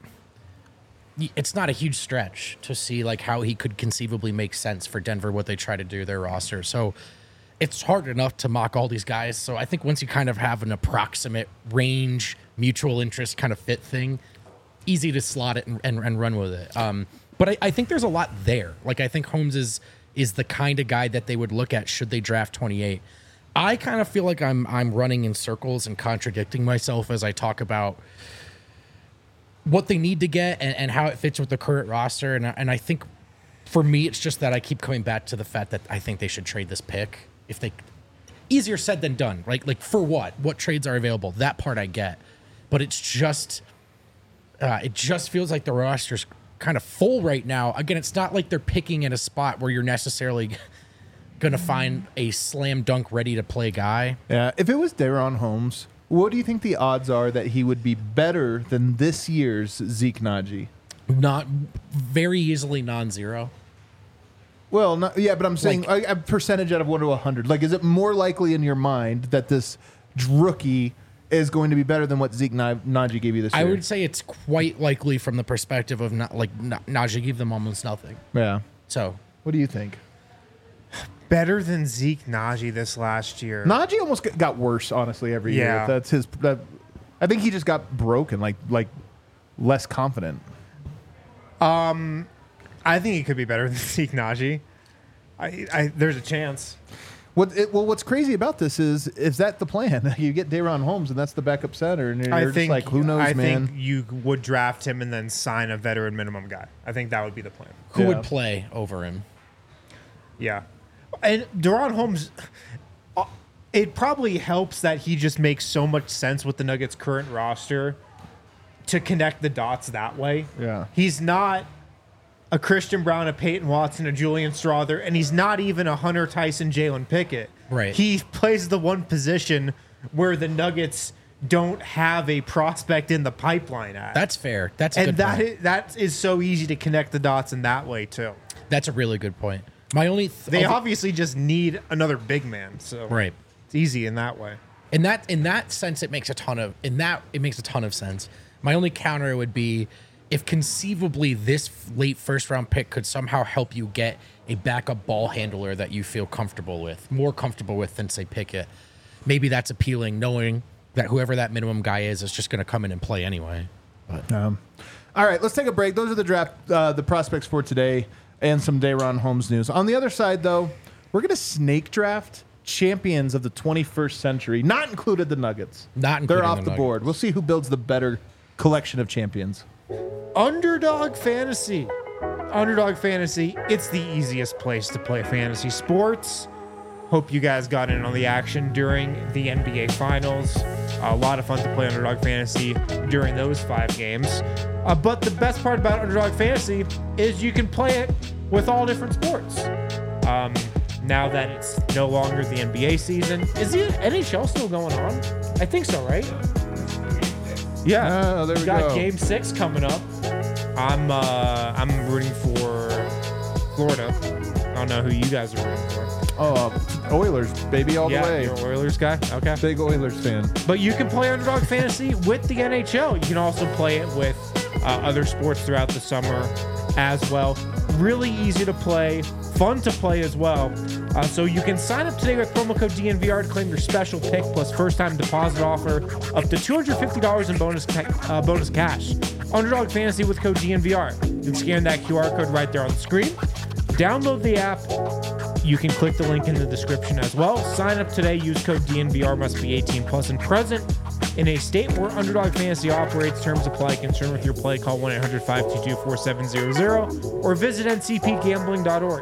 Speaker 3: y- It's not a huge stretch to see like how he could conceivably make sense for Denver, what they try to do their roster. So it's hard enough to mock all these guys. So I think once you kind of have an approximate range, mutual interest kind of fit thing, easy to slot it and, and, and run with it. Um, but I, I think there's a lot there. Like, I think Holmes is is the kind of guy that they would look at should they draft twenty-eight. I kind of feel like I'm I'm running in circles and contradicting myself as I talk about what they need to get and, and how it fits with the current roster. And, I- and I think for me, it's just that I keep coming back to the fact that I think they should trade this pick. If they, easier said than done, right? Like, for what? What trades are available? That part I get. But it's just, uh, it just feels like the roster's kind of full right now. Again, it's not like they're picking in a spot where you're necessarily going to find a slam dunk ready to play guy.
Speaker 1: Yeah, if it was Daron Holmes, what do you think the odds are that he would be better than this year's Zeke Naji?
Speaker 3: Not very easily non-zero.
Speaker 1: Well, not, yeah, but I'm saying
Speaker 3: Like-
Speaker 1: a, a percentage out of one to a hundred. Like, is it more likely in your mind that this rookie is going to be better than what Zeke Na- Naji gave you this
Speaker 3: I
Speaker 1: year?
Speaker 3: would say it's quite likely from the perspective of not like Na- Najee gave them almost nothing.
Speaker 1: Yeah.
Speaker 3: So
Speaker 1: What do you think?
Speaker 2: Better than Zeke Najee this last year.
Speaker 1: Najee almost g- got worse, honestly, every year.
Speaker 2: Yeah.
Speaker 1: That's his. That, I think he just got broken, like like less confident.
Speaker 2: I think he could be better than Zeke Najee. I, I, there's a chance.
Speaker 1: What it, well, what's crazy about this is is that the plan? You get Daron Holmes, and that's the backup center, and you're
Speaker 2: I
Speaker 1: just
Speaker 2: think
Speaker 1: like, who knows,
Speaker 2: I
Speaker 1: man?
Speaker 2: think you would draft him and then sign a veteran minimum guy. I think that would be the plan.
Speaker 3: who
Speaker 1: Yeah.
Speaker 3: would play over him?
Speaker 2: Yeah. And Daron Holmes, uh, it probably helps that he just makes so much sense with the Nuggets' current roster to connect the dots that way.
Speaker 1: Yeah.
Speaker 2: He's not a Christian Brown, a Peyton Watson, a Julian Strother, and he's not even a Hunter Tyson, Jalen Pickett.
Speaker 3: Right.
Speaker 2: He plays the one position where the Nuggets don't have a prospect in the pipeline at.
Speaker 3: That's fair. That's a
Speaker 2: and
Speaker 3: good
Speaker 2: that
Speaker 3: point.
Speaker 2: is, that is so easy to connect the dots in that way too.
Speaker 3: That's a really good point. My only th-
Speaker 2: They
Speaker 3: other-
Speaker 2: obviously just need another big man, so
Speaker 3: right.
Speaker 2: it's easy in that way.
Speaker 3: In that in that sense, it makes a ton of in that it makes a ton of sense. My only counter would be if conceivably this late first round pick could somehow help you get a backup ball handler that you feel comfortable with, more comfortable with than say Pickett. Maybe that's appealing, knowing that whoever that minimum guy is is just going to come in and play anyway.
Speaker 1: Um, all right, let's take a break. Those are the draft, uh, the prospects for today, and some Daron Holmes news. On the other side, though, we're going to snake draft champions of the twenty-first century, not included the Nuggets.
Speaker 3: Not
Speaker 1: They're
Speaker 3: including
Speaker 1: off
Speaker 3: the
Speaker 1: the,
Speaker 3: Nuggets.
Speaker 1: board. We'll see who builds the better collection of champions.
Speaker 2: Underdog Fantasy. Underdog Fantasy, it's the easiest place to play fantasy sports. Hope you guys got in on the action during the N B A Finals. A lot of fun to play Underdog Fantasy during those five games. Uh, but the best part about Underdog Fantasy is you can play it with all different sports. Um, now that it's no longer the N B A season, is the N H L still going on? I think so, right? Yeah.
Speaker 1: Oh, there we
Speaker 2: got
Speaker 1: go.
Speaker 2: Game Six coming up. I'm uh, I'm rooting for Florida. I don't know who you guys are rooting for.
Speaker 1: Oh, Oilers, baby, all
Speaker 2: yeah,
Speaker 1: the way.
Speaker 2: you're an Oilers guy. Okay.
Speaker 1: Big Oilers fan.
Speaker 2: But you can play Underdog Fantasy with the N H L. You can also play it with uh, other sports throughout the summer as well. Really easy to play, fun to play as well. Uh, so you can sign up today with promo code D N V R to claim your special pick plus first-time deposit offer up to two hundred fifty dollars in bonus ca- uh, bonus cash. Underdog Fantasy with code D N V R. You can scan that Q R code right there on the screen. Download the app. You can click the link in the description as well. Sign up today. Use code D N V R. Must be eighteen plus and present in a state where Underdog Fantasy operates. Terms apply. Concern with your play? Call one eight hundred five two two four seven zero zero or visit N C P gambling dot org.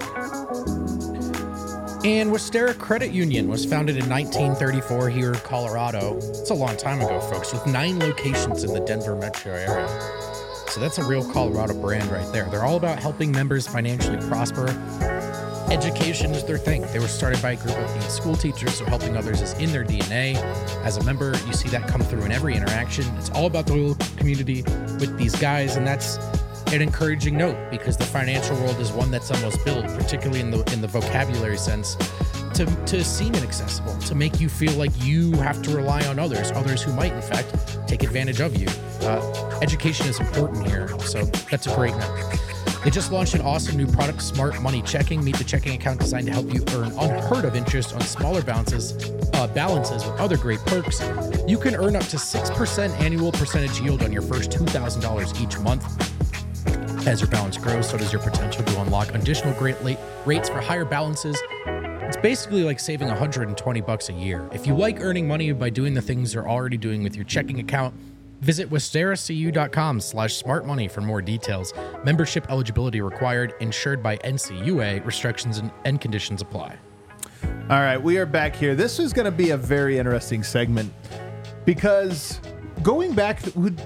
Speaker 3: And Westera Credit Union was founded in nineteen thirty-four here in Colorado. It's a long time ago, folks, with nine locations in the Denver metro area. So that's a real Colorado brand right there. They're all about helping members financially prosper. Education is their thing. They were started by a group of eight school teachers, so helping others is in their D N A. As a member, you see that come through in every interaction. It's all about the local community with these guys, and that's an encouraging note because the financial world is one that's almost built, particularly in the in the vocabulary sense, to, to seem inaccessible, to make you feel like you have to rely on others, others who might, in fact, take advantage of you. Uh, education is important here, so that's a great note. They just launched an awesome new product, Smart Money Checking. Meet the checking account designed to help you earn unheard of interest on smaller balances, uh, balances with other great perks. You can earn up to six percent annual percentage yield on your first two thousand dollars each month. As your balance grows, so does your potential to unlock additional great late rates for higher balances. It's basically like saving one hundred twenty bucks a year. If you like earning money by doing the things you're already doing with your checking account, visit westeracu.com slash smartmoney for more details. Membership eligibility required, insured by N C U A. Restrictions and, and conditions apply.
Speaker 1: All right, we are back here. This is going to be a very interesting segment because going back,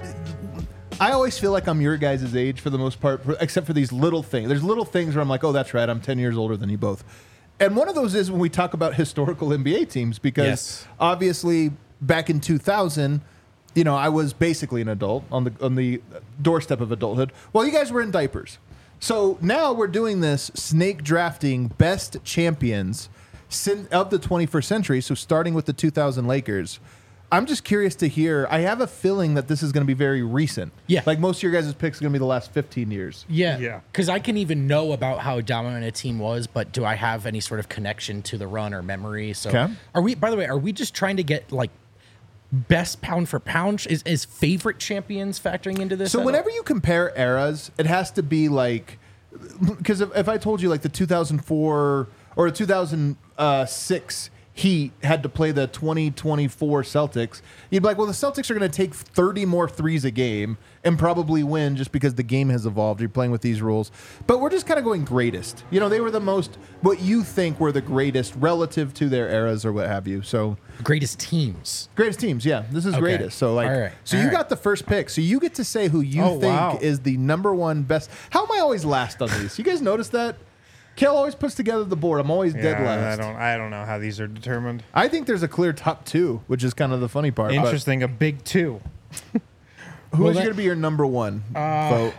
Speaker 1: I always feel like I'm your guys' age for the most part, except for these little things. There's little things where I'm like, oh, that's right, I'm ten years older than you both. And one of those is when we talk about historical N B A teams, because
Speaker 3: Yes.
Speaker 1: obviously back in two thousand, you know, I was basically an adult on the on the doorstep of adulthood. Well, you guys were in diapers. So now we're doing this snake drafting best champions sin- of the twenty-first century. So starting with the two thousand Lakers. I'm just curious to hear. I have a feeling that this is going to be very recent.
Speaker 3: Yeah.
Speaker 1: Like most of your guys' picks are going to be the last fifteen years.
Speaker 3: Yeah.
Speaker 2: Yeah.
Speaker 3: Because I can even know about how dominant a team was, but do I have any sort of connection to the run or memory? So
Speaker 1: Okay.
Speaker 3: are we, by the way, are we just trying to get like best pound for pound? Is, is favorite champions factoring into this?
Speaker 1: So
Speaker 3: at
Speaker 1: whenever
Speaker 3: all?
Speaker 1: you compare eras, it has to be like, because if, if I told you like the two thousand four or the two thousand six Heat had to play the twenty twenty-four Celtics, you'd be like, well, the Celtics are going to take thirty more threes a game and probably win just because the game has evolved. You're playing with these rules. But we're just kind of going greatest. You know, they were the most, what you think were the greatest relative to their eras or what have you. So
Speaker 3: greatest teams.
Speaker 1: greatest teams, yeah. This is
Speaker 3: Okay.
Speaker 1: greatest. So like,
Speaker 3: All right.
Speaker 1: so
Speaker 3: All
Speaker 1: you
Speaker 3: right.
Speaker 1: got the first pick. So you get to say who you
Speaker 2: Oh,
Speaker 1: think
Speaker 2: wow.
Speaker 1: is the number one best. How am I always last on these? You guys notice that? Kel always puts together the board. I'm always dead
Speaker 2: Yeah,
Speaker 1: last.
Speaker 2: I don't. I don't know how these are determined.
Speaker 1: I think there's a clear top two, which is kind of the funny part.
Speaker 2: Interesting. A big two.
Speaker 1: But who
Speaker 3: Well,
Speaker 1: is
Speaker 3: that-
Speaker 1: going to be your number one
Speaker 2: Uh,
Speaker 1: vote?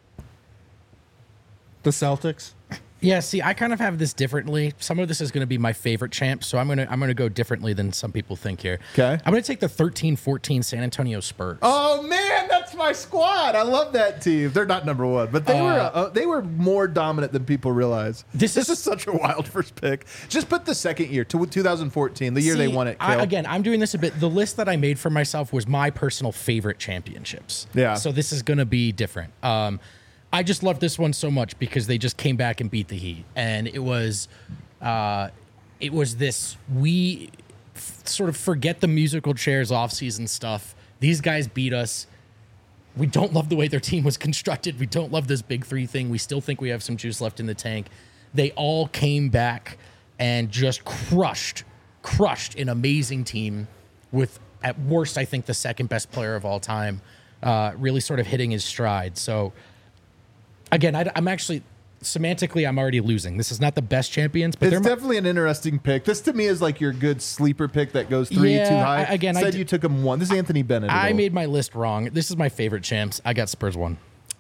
Speaker 2: The Celtics.
Speaker 3: Yeah, see, I kind of have this differently. Some of this is going to be my favorite champ, so I'm going to I'm going to go differently than some people think here.
Speaker 1: 'Kay.
Speaker 3: I'm going to take the thirteen fourteen San Antonio Spurs.
Speaker 1: Oh man, that's my squad. I love that team. They're not number one, but they
Speaker 3: Uh,
Speaker 1: were uh, they were more dominant than people realize.
Speaker 3: This
Speaker 1: This
Speaker 3: is-
Speaker 1: is such a wild first pick. Just put the second year to two thousand fourteen, the year they
Speaker 3: See,
Speaker 1: won it.
Speaker 3: I,
Speaker 1: Kel.
Speaker 3: again, I'm doing this a bit. The list that I made for myself was my personal favorite championships.
Speaker 1: Yeah.
Speaker 3: So this is going to be different. Um, I just love this one so much because they just came back and beat the Heat, and it was, uh, it was this we f- sort of forget the musical chairs offseason stuff. These guys beat us. We don't love the way their team was constructed. We don't love this big three thing. We still think we have some juice left in the tank. They all came back and just crushed, crushed an amazing team with, at worst, I think the second best player of all time, uh, really sort of hitting his stride. So, again, I, am actually, semantically, I'm already losing. This is not the best champions, but
Speaker 1: It's
Speaker 3: they're my-
Speaker 1: definitely an interesting pick. This to me is like your good sleeper pick that goes three
Speaker 3: Yeah,
Speaker 1: too high.
Speaker 3: I- again, I
Speaker 1: said
Speaker 3: d-
Speaker 1: you took him one. This is Anthony Bennett. at
Speaker 3: I
Speaker 1: all.
Speaker 3: made my list wrong. This is my favorite champs. I got Spurs one.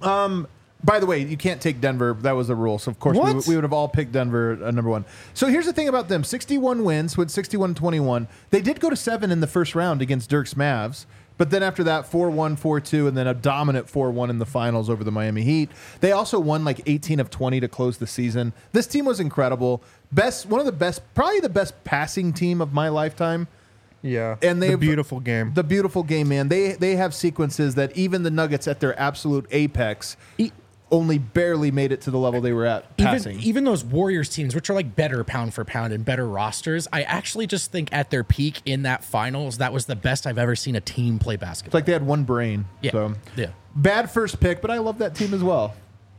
Speaker 1: By the way, you can't take Denver. That was a rule. So, of course, we,
Speaker 2: What?
Speaker 1: would- we would have all picked Denver uh, number one. So, here's the thing about them sixty-one wins, went sixty-one twenty-one. They did go to seven in the first round against Dirk's Mavs. But then after that, four one, four two, and then a dominant four one in the finals over the Miami Heat. They also won like eighteen of twenty to close the season. This team was incredible. Best, one of the best, probably the best passing team of my lifetime.
Speaker 2: Yeah.
Speaker 1: And
Speaker 2: the
Speaker 1: they've-
Speaker 2: beautiful game.
Speaker 1: The beautiful game, man. They they have sequences that even the Nuggets at their absolute apex
Speaker 3: E-
Speaker 1: only barely made it to the level they were at passing.
Speaker 3: Even, even those Warriors teams, which are like better pound for pound and better rosters, I actually just think at their peak in that finals, that was the best I've ever seen a team play
Speaker 1: It's
Speaker 3: basketball.
Speaker 1: like they had one brain.
Speaker 3: Yeah.
Speaker 1: So.
Speaker 3: Yeah.
Speaker 1: Bad first pick, but I love that team as well.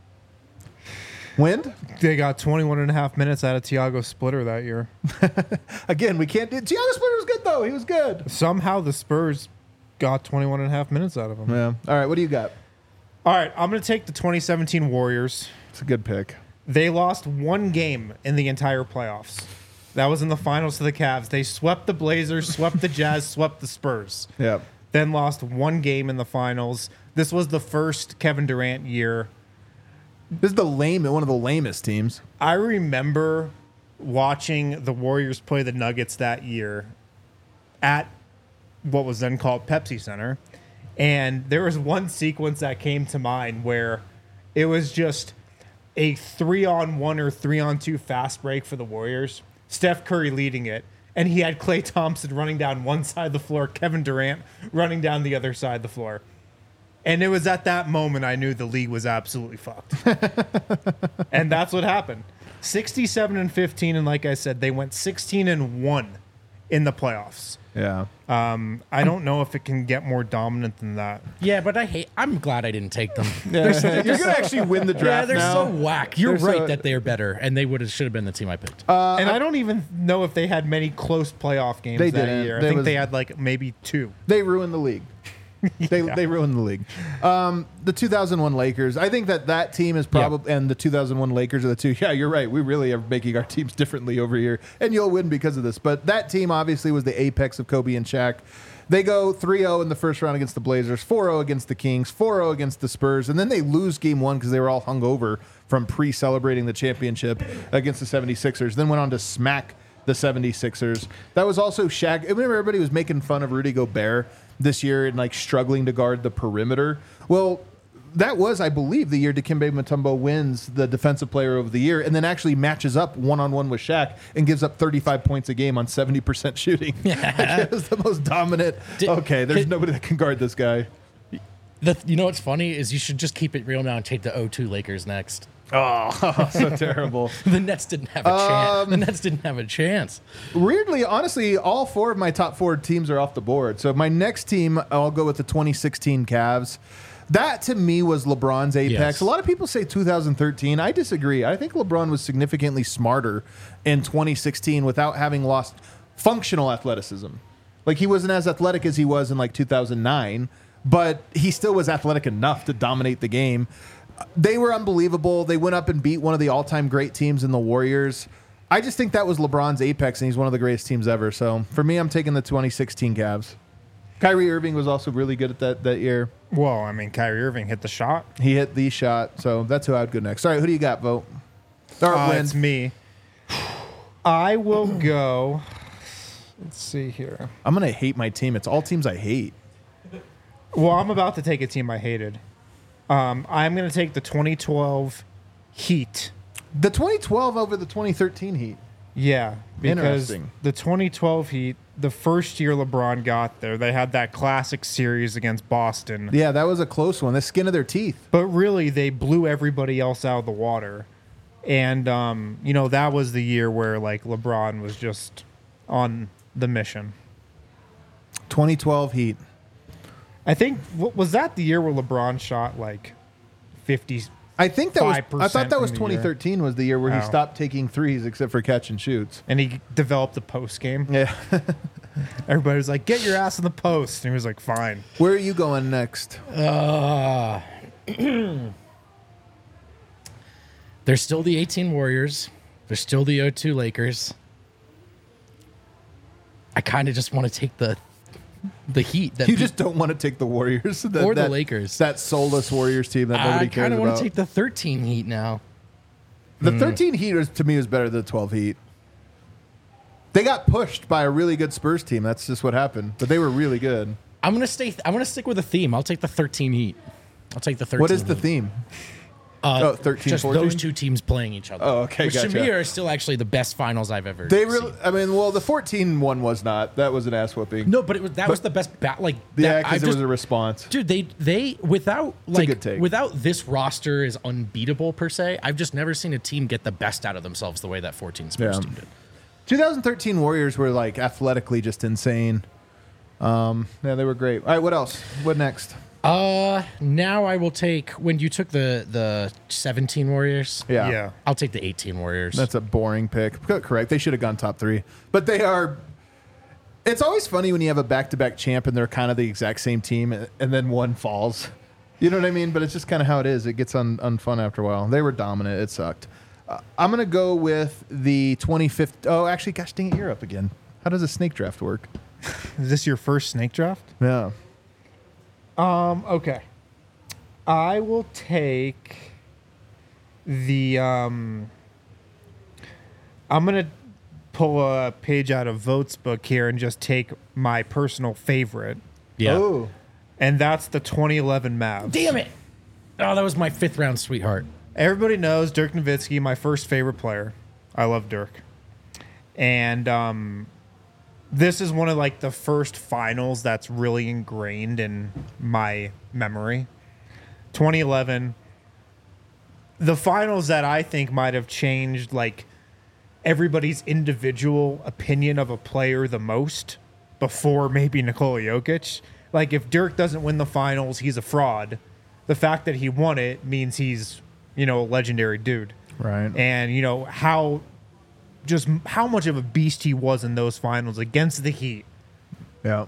Speaker 1: Wind?
Speaker 2: They got twenty-one and a half minutes out of Tiago Splitter that year.
Speaker 1: Again, we can't do Tiago Splitter was good though. He was good.
Speaker 2: Somehow the Spurs got twenty-one and a half minutes out of him.
Speaker 1: Yeah. All right, what do you got?
Speaker 2: All right, I'm going to take the twenty seventeen Warriors.
Speaker 1: It's a good pick.
Speaker 2: They lost one game in the entire playoffs. That was in the finals to the Cavs. They swept the Blazers, swept the Jazz, swept the Spurs.
Speaker 1: Yeah.
Speaker 2: Then lost one game in the finals. This was the first Kevin Durant year.
Speaker 1: This is the lame one of the lamest teams.
Speaker 2: I remember watching the Warriors play the Nuggets that year at what was then called Pepsi Center. And there was one sequence that came to mind where it was just a three on one or three on two fast break for the Warriors. Steph Curry leading it. And he had Klay Thompson running down one side of the floor, Kevin Durant running down the other side of the floor. And it was at that moment I knew the league was absolutely fucked. And that's what happened. sixty-seven and fifteen, and like I said, they went sixteen and one in the playoffs.
Speaker 1: Yeah.
Speaker 2: Um, I don't know if it can get more dominant than that.
Speaker 3: Yeah, but I hate. I'm glad I didn't take them.
Speaker 1: You're gonna actually win the
Speaker 3: Yeah,
Speaker 1: draft
Speaker 3: they're
Speaker 1: now.
Speaker 3: so whack. You're
Speaker 1: They're
Speaker 3: right
Speaker 1: so-
Speaker 3: that they're better, and they would have should have been the team I picked.
Speaker 1: Uh,
Speaker 2: And I don't even know if they had many close playoff games
Speaker 1: They
Speaker 2: that
Speaker 1: didn't.
Speaker 2: year. I
Speaker 1: They
Speaker 2: think
Speaker 1: was-
Speaker 2: they had like maybe two.
Speaker 1: They ruined the league. They
Speaker 2: Yeah.
Speaker 1: they ruined the league. Um, the two thousand one Lakers. I think that that team is probably and the two thousand one Lakers are the two. Yeah, you're right. We really are making our teams differently over here, and you'll win because of this. But that team obviously was the apex of Kobe and Shaq. They go three oh in the first round against the Blazers, four oh against the Kings, four oh against the Spurs, and then they lose game one because they were all hungover from pre-celebrating the championship against the seventy-sixers. Then went on to smack the seventy-sixers. That was also Shaq. I remember everybody was making fun of Rudy Gobert this year and like struggling to guard the perimeter. Well, that was, I believe, the year Dikembe Mutombo wins the Defensive Player of the Year and then actually matches up one-on-one with Shaq and gives up thirty-five points a game on seventy percent shooting. Like, it was the most dominant.
Speaker 3: Did-
Speaker 1: okay, there's
Speaker 3: did-
Speaker 1: nobody that can guard this guy.
Speaker 3: The, you know what's funny is you should just keep it real now and take the oh two Lakers next.
Speaker 1: Oh, so terrible.
Speaker 3: The Nets didn't have a
Speaker 1: Um,
Speaker 3: chance. The Nets didn't have a chance.
Speaker 1: Weirdly, honestly, all four of my top four teams are off the board. So my next team, I'll go with the twenty sixteen Cavs. That to me was LeBron's apex.
Speaker 3: Yes.
Speaker 1: A lot of people say two thousand thirteen. I disagree. I think LeBron was significantly smarter in twenty sixteen without having lost functional athleticism. Like he wasn't as athletic as he was in like two thousand nine, but he still was athletic enough to dominate the game. They were unbelievable. They went up and beat one of the all-time great teams in the Warriors. I just think that was LeBron's apex, and he's one of the greatest teams ever. So for me, I'm taking the twenty sixteen Cavs. Kyrie Irving was also really good at that that year.
Speaker 2: Well, I mean, Kyrie Irving hit the shot.
Speaker 1: He hit the shot, so that's who I would go next. All right, who do you got, Vote? Or
Speaker 2: Uh,
Speaker 1: win.
Speaker 2: it's me. I will go. Let's see here.
Speaker 1: I'm going to hate my team. It's all teams I hate.
Speaker 2: Well, I'm about to take a team I hated. Um, I'm going to take the twenty twelve Heat.
Speaker 1: The twenty twelve over the twenty thirteen Heat.
Speaker 2: Yeah, because
Speaker 1: Interesting.
Speaker 2: the twenty twelve Heat, the first year LeBron got there, they had that classic series against Boston.
Speaker 1: Yeah, that was a close one. The skin of their teeth.
Speaker 2: But really, they blew everybody else out of the water. And, um, you know, that was the year where, like, LeBron was just on the mission.
Speaker 1: twenty twelve Heat.
Speaker 2: I think, what, was that the year where LeBron shot, like, fifty?
Speaker 1: I think that was. I
Speaker 2: five percent
Speaker 1: thought that was
Speaker 2: from the year.
Speaker 1: twenty thirteen was the year where he
Speaker 2: Oh.
Speaker 1: stopped taking threes except for catch and shoots.
Speaker 2: And he developed the post game.
Speaker 1: Yeah.
Speaker 2: Everybody was like, get your ass in the post. And he was like, fine.
Speaker 1: Where are you going next?
Speaker 3: Uh, there's still the eighteen Warriors. There's still the oh two Lakers. I kind of just want to take the the Heat. That
Speaker 1: You
Speaker 3: beat-
Speaker 1: just don't want to take the Warriors that,
Speaker 3: Or the
Speaker 1: that-
Speaker 3: Lakers.
Speaker 1: That soulless Warriors team that nobody
Speaker 3: I
Speaker 1: cares
Speaker 3: kind of want
Speaker 1: about.
Speaker 3: to take the thirteen Heat now.
Speaker 1: The thirteen Heat is, to me is better than the twelve Heat. They got pushed by a really good Spurs team. That's just what happened. But they were really good.
Speaker 3: I'm gonna stay. I'm gonna stick with a theme. I'll take the thirteen Heat. I'll take the thirteen.
Speaker 1: What is the
Speaker 3: Heat.
Speaker 1: theme?
Speaker 3: Uh,
Speaker 1: Oh, thirteen,
Speaker 3: just
Speaker 1: fourteen?
Speaker 3: those two teams playing each other.
Speaker 1: Oh, okay,
Speaker 3: Which to
Speaker 1: gotcha.
Speaker 3: me are still actually the best finals I've ever.
Speaker 1: They
Speaker 3: seen.
Speaker 1: really. I mean, well, the fourteen one was not. That was an ass whooping.
Speaker 3: No, but it was that was the best. Ba- like
Speaker 1: Yeah,
Speaker 3: that,
Speaker 1: because
Speaker 3: I've
Speaker 1: there was
Speaker 3: just-
Speaker 1: a response.
Speaker 3: Dude, they they without
Speaker 1: a
Speaker 3: like
Speaker 1: good take.
Speaker 3: without this roster is unbeatable per se. I've just never seen a team get the best out of themselves the way that fourteen Spurs
Speaker 1: Yeah.
Speaker 3: team did.
Speaker 1: twenty thirteen Warriors were like athletically just insane. Um, yeah, they were great. All right, what else? What next?
Speaker 3: Uh, now I will take when you took the the seventeen Warriors.
Speaker 1: Yeah,
Speaker 2: Yeah.
Speaker 3: I'll take the eighteen Warriors.
Speaker 1: that's a boring pick. Co- Correct. They should have gone top three, but they are. It's always funny when you have a back-to-back champ and they're kind of the exact same team, and then one falls. You know what I mean? But it's just kind of how it is. It gets un- unfun after a while. They were dominant. It sucked. Uh, I'm gonna go with the twenty-fifth. Oh, actually, gosh dang it, you're up again. How does a snake draft work?
Speaker 2: Is this your first snake draft?
Speaker 1: Yeah.
Speaker 2: Um, okay. I will take the um I'm going to pull a page out of Vote's book here and just take my personal favorite,
Speaker 3: yeah.
Speaker 1: Oh.
Speaker 2: and that's the twenty eleven Mavs.
Speaker 3: Damn it! Oh, that was my fifth round sweetheart.
Speaker 2: everybody knows Dirk Nowitzki, my first favorite player. I love Dirk. And um, this is one of like the first finals that's really ingrained in my memory. twenty eleven. The finals that I think might have changed like everybody's individual opinion of a player the most before maybe Nikola Jokic. Like if Dirk doesn't win the finals, he's a fraud. The fact that he won it means he's, you know, a legendary dude.
Speaker 1: Right.
Speaker 2: And, you know, how just how much of a beast he was in those finals against the Heat
Speaker 1: Yeah.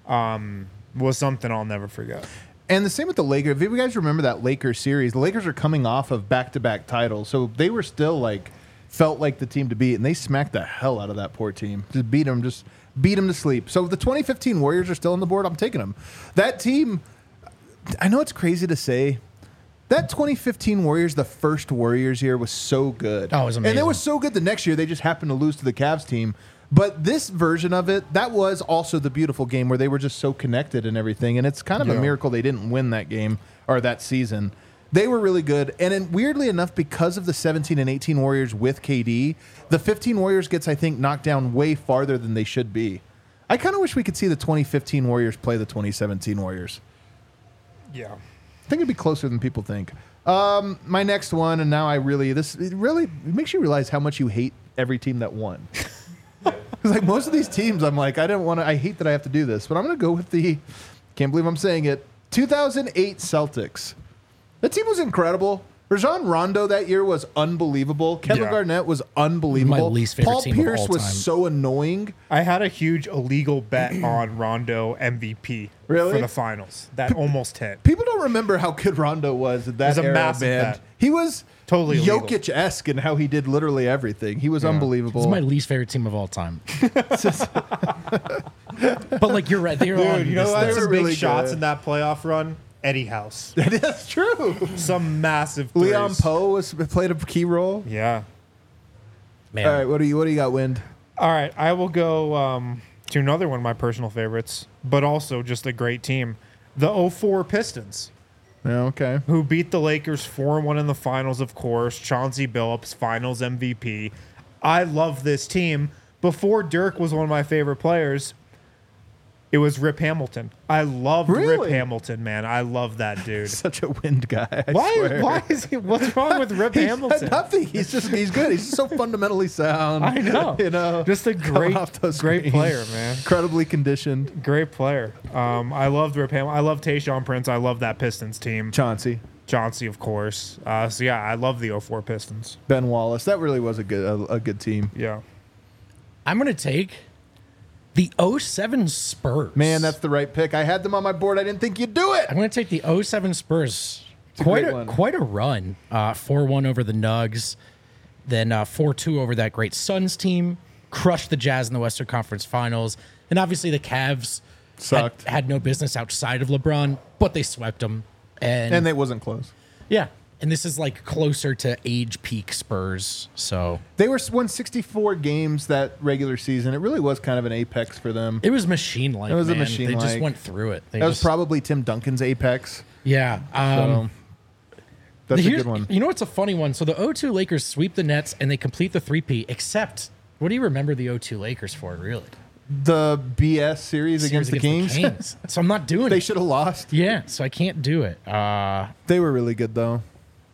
Speaker 2: was something I'll never forget.
Speaker 1: And the same with the Lakers. If you guys remember that Lakers series, the Lakers are coming off of back-to-back titles, so they were still like felt like the team to beat, and they smacked the hell out of that poor team. Just beat them, just beat them to sleep. So the twenty fifteen Warriors are still on the board. I'm taking them. That team, I know it's crazy to say, that twenty fifteen Warriors, the first Warriors year, was so good.
Speaker 3: Oh, it was
Speaker 1: And it
Speaker 3: amazing.
Speaker 1: was so good the next year. They just happened to lose to the Cavs team. But this version of it, that was also the beautiful game where they were just so connected and everything. And it's kind of
Speaker 2: Yeah.
Speaker 1: a miracle they didn't win that game or that season. They were really good. And then weirdly enough, because of the seventeen and eighteen Warriors with K D, the fifteen Warriors gets, I think, knocked down way farther than they should be. I kind of wish we could see the twenty fifteen Warriors play the twenty seventeen Warriors.
Speaker 2: Yeah.
Speaker 1: I think it'd be closer than people think. Um, my next one, and now I really, this it really it makes you realize how much you hate every team that won. Because like most of these teams, I'm like, I don't want to. I hate that I have to do this, but I'm going to go with the. Can't believe I'm saying it. two thousand eight Celtics. That team was incredible. Rajon Rondo that year was unbelievable. Kevin
Speaker 2: Yeah.
Speaker 1: Garnett was unbelievable.
Speaker 3: My least favorite
Speaker 1: Paul
Speaker 3: team of
Speaker 1: Pierce
Speaker 3: all
Speaker 1: was
Speaker 3: time.
Speaker 1: so annoying.
Speaker 2: I had a huge illegal bet on Rondo M V P
Speaker 1: Really?
Speaker 2: for the finals. That almost hit.
Speaker 1: People don't remember how good Rondo was at that
Speaker 2: It was a
Speaker 1: era,
Speaker 2: massive
Speaker 1: man.
Speaker 2: bet.
Speaker 1: He was
Speaker 2: Totally illegal.
Speaker 1: Jokic-esque in how he did literally everything. He was unbelievable.
Speaker 3: It's my least favorite team of all time. But like you're right, they're on
Speaker 2: Dude, you know
Speaker 3: this
Speaker 2: who had
Speaker 1: They
Speaker 2: some
Speaker 1: were
Speaker 2: big
Speaker 1: really
Speaker 2: shots
Speaker 1: good.
Speaker 2: in that playoff run? Eddie House.
Speaker 1: That's true.
Speaker 2: Some massive threes.
Speaker 1: Leon Poe was played a key role.
Speaker 2: Yeah.
Speaker 3: man.
Speaker 1: All right, what do you what do you got, Wind?
Speaker 2: All right, I will go um, to another one of my personal favorites, but also just a great team. The oh four Pistons,
Speaker 1: Yeah, okay.
Speaker 2: who beat the Lakers four one in the finals, of course. Chauncey Billups, finals M V P. I love this team. Before Dirk was one of my favorite players, it was Rip Hamilton. I loved
Speaker 1: Really?
Speaker 2: Rip Hamilton, man. I love that dude.
Speaker 1: Such a Wind guy. I
Speaker 2: Why?
Speaker 1: swear.
Speaker 2: Why is he? What's wrong with Rip
Speaker 1: He's
Speaker 2: Hamilton?
Speaker 1: nothing. He's just he's good. He's so fundamentally sound.
Speaker 2: I know.
Speaker 1: You know,
Speaker 2: Just a
Speaker 1: coming
Speaker 2: great,
Speaker 1: off those
Speaker 2: great
Speaker 1: screens.
Speaker 2: player, man.
Speaker 1: Incredibly conditioned.
Speaker 2: Great player. Um, I loved Rip Hamilton. I love Tayshaun Prince. I love that Pistons team.
Speaker 1: Chauncey,
Speaker 2: Chauncey, of course. Uh, so yeah, I love the oh four Pistons.
Speaker 1: Ben Wallace. That really was a good a, a good team.
Speaker 2: Yeah.
Speaker 3: I'm gonna take the oh seven Spurs.
Speaker 1: Man, that's the right pick. I had them on my board. I didn't think you'd do it.
Speaker 3: I'm gonna take the oh seven Spurs.
Speaker 1: a
Speaker 3: Quite
Speaker 1: great
Speaker 3: a
Speaker 1: one.
Speaker 3: quite a run. Uh, four one over the Nugs, then uh, four two over that great Suns team. Crushed the Jazz in the Western Conference Finals, and obviously the Cavs had,
Speaker 1: Sucked.
Speaker 3: had no business outside of LeBron, but they swept them. And,
Speaker 1: And they wasn't close.
Speaker 3: yeah, and this is like closer to age peak Spurs. So
Speaker 1: They were won sixty-four games that regular season. It really was kind of an apex for them.
Speaker 3: it was machine like.
Speaker 1: It was a
Speaker 3: man. They
Speaker 1: machine-like.
Speaker 3: just went through it. They
Speaker 1: That was
Speaker 3: just,
Speaker 1: probably Tim Duncan's apex.
Speaker 3: yeah. Um,
Speaker 1: So that's a
Speaker 3: Here's-
Speaker 1: good one.
Speaker 3: You know what's a funny one? So the oh two Lakers sweep the Nets and they complete the three-peat, except what do you remember the oh two Lakers for, really?
Speaker 1: The B S series against the Kings.
Speaker 3: Kings. So I'm not doing
Speaker 1: They
Speaker 3: it.
Speaker 1: should have lost.
Speaker 3: Yeah, so I can't do it. Uh,
Speaker 1: They were really good though.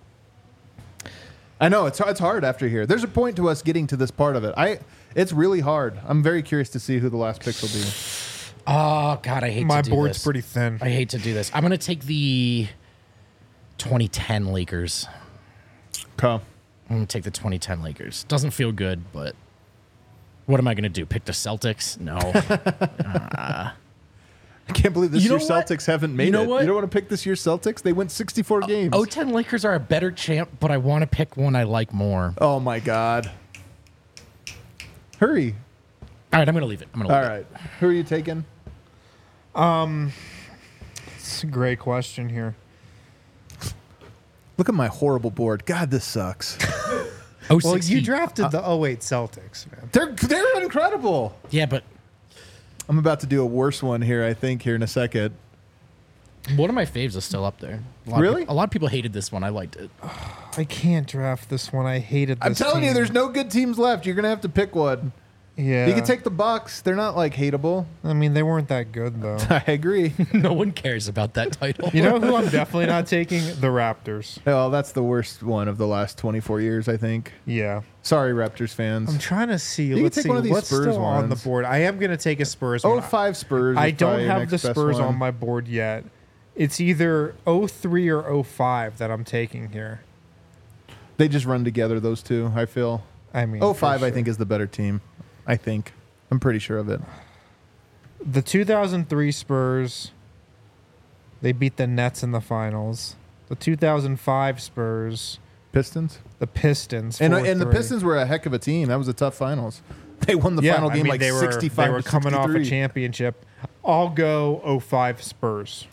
Speaker 1: I know it's it's hard after here. There's a point to us getting to this part of it. I it's really hard. I'm very curious to see who the last picks will be.
Speaker 3: oh, God, I hate
Speaker 2: My
Speaker 3: to do
Speaker 2: board's
Speaker 3: this.
Speaker 2: pretty thin.
Speaker 3: I hate to do this. I'm going to take the twenty ten Lakers.
Speaker 1: Okay.
Speaker 3: I'm going to take the twenty ten Lakers. Doesn't feel good, but what am I going to do? Pick the Celtics? No.
Speaker 1: I can't believe this
Speaker 3: You know
Speaker 1: year's
Speaker 3: what?
Speaker 1: Celtics haven't made
Speaker 3: You know
Speaker 1: it.
Speaker 3: what?
Speaker 1: You don't want to pick this year's Celtics? They went sixty-four games.
Speaker 3: oh ten Lakers are a better champ, but I want to pick one I like more.
Speaker 1: Oh my god. Hurry.
Speaker 3: All right, I'm going to leave it. I'm going to
Speaker 1: All
Speaker 3: leave
Speaker 1: right. Who are you taking?
Speaker 2: It's a great question here.
Speaker 1: Look at my horrible board. God, this sucks.
Speaker 3: it. Oh,
Speaker 2: Well,
Speaker 3: six
Speaker 2: you
Speaker 3: Heat.
Speaker 2: drafted the oh eight Celtics, man.
Speaker 1: they're they're incredible.
Speaker 3: Yeah, but
Speaker 1: I'm about to do a worse one here, I think, here in a second.
Speaker 3: one of my faves is still up there. A lot of
Speaker 1: Really?
Speaker 3: peop- a lot of people hated this one. I liked it.
Speaker 2: I can't draft this one. I hated this
Speaker 1: I'm telling
Speaker 2: team.
Speaker 1: you, there's no good teams left. You're gonna have to pick one.
Speaker 2: Yeah.
Speaker 1: You can take the Bucks. They're not like hateable.
Speaker 2: I mean, they weren't that good, though.
Speaker 1: I agree.
Speaker 3: No one cares about that title.
Speaker 2: You know who I'm definitely not taking? The Raptors.
Speaker 1: Well, that's the worst one of the last twenty-four years, I think.
Speaker 2: Yeah.
Speaker 1: Sorry, Raptors fans.
Speaker 2: I'm trying to see.
Speaker 1: can
Speaker 2: Let's
Speaker 1: take
Speaker 2: see
Speaker 1: one of these
Speaker 2: what's
Speaker 1: Spurs
Speaker 2: still on the
Speaker 1: ones.
Speaker 2: board. I am going to take a Spurs
Speaker 1: oh
Speaker 2: one.
Speaker 1: five Spurs.
Speaker 2: I
Speaker 1: is
Speaker 2: don't
Speaker 1: probably your
Speaker 2: have the
Speaker 1: next best
Speaker 2: Spurs
Speaker 1: one.
Speaker 2: on my board yet. It's either oh three or oh five that I'm taking here.
Speaker 1: They just run together, those two, I feel.
Speaker 2: I mean,
Speaker 1: oh
Speaker 2: for
Speaker 1: five, I
Speaker 2: sure.
Speaker 1: think, is the better team. I think. I'm pretty sure of it.
Speaker 2: The two thousand three Spurs, they beat the Nets in the finals. The two thousand five Spurs,
Speaker 1: Pistons?
Speaker 2: the Pistons.
Speaker 1: And,
Speaker 2: four
Speaker 1: and the
Speaker 2: three.
Speaker 1: Pistons were a heck of a team. That was a tough finals. They won the
Speaker 2: yeah,
Speaker 1: final
Speaker 2: I
Speaker 1: game
Speaker 2: mean,
Speaker 1: like
Speaker 2: they were,
Speaker 1: sixty-five
Speaker 2: They were
Speaker 1: to
Speaker 2: coming off a
Speaker 1: sixty-three.
Speaker 2: championship. I'll go oh five Spurs.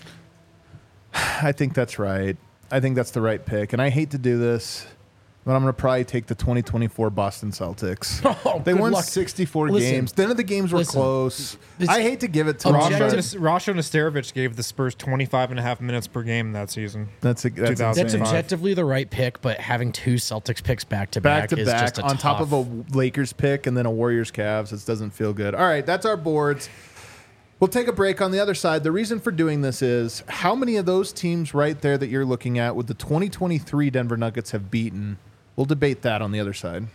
Speaker 1: I think that's right. I think that's the right pick. And I hate to do this, but I'm going to probably take the twenty twenty-four Boston Celtics.
Speaker 3: Oh,
Speaker 1: they
Speaker 3: good
Speaker 1: won
Speaker 3: luck.
Speaker 1: sixty-four
Speaker 3: Listen,
Speaker 1: games. None of the games were
Speaker 3: listen.
Speaker 1: close.
Speaker 3: This-
Speaker 1: I hate to give it to them.
Speaker 2: Rasho,
Speaker 1: but
Speaker 3: Objective-
Speaker 2: Nas- Rasho Nesterovic gave the Spurs twenty-five and a half minutes per game that season.
Speaker 1: That's, a, that's,
Speaker 2: two thousand
Speaker 3: That's
Speaker 1: insane.
Speaker 2: five.
Speaker 3: objectively the right pick, but having two Celtics picks back to
Speaker 1: back
Speaker 3: back
Speaker 1: to
Speaker 3: is
Speaker 1: back
Speaker 3: just a
Speaker 1: on top
Speaker 3: tough-
Speaker 1: of a Lakers pick and then a Warriors Cavs. It doesn't feel good. All right, that's our boards. We'll take a break on the other side. The reason for doing this is how many of those teams right there that you're looking at with the twenty twenty-three Denver Nuggets have beaten. We'll debate that on the other side.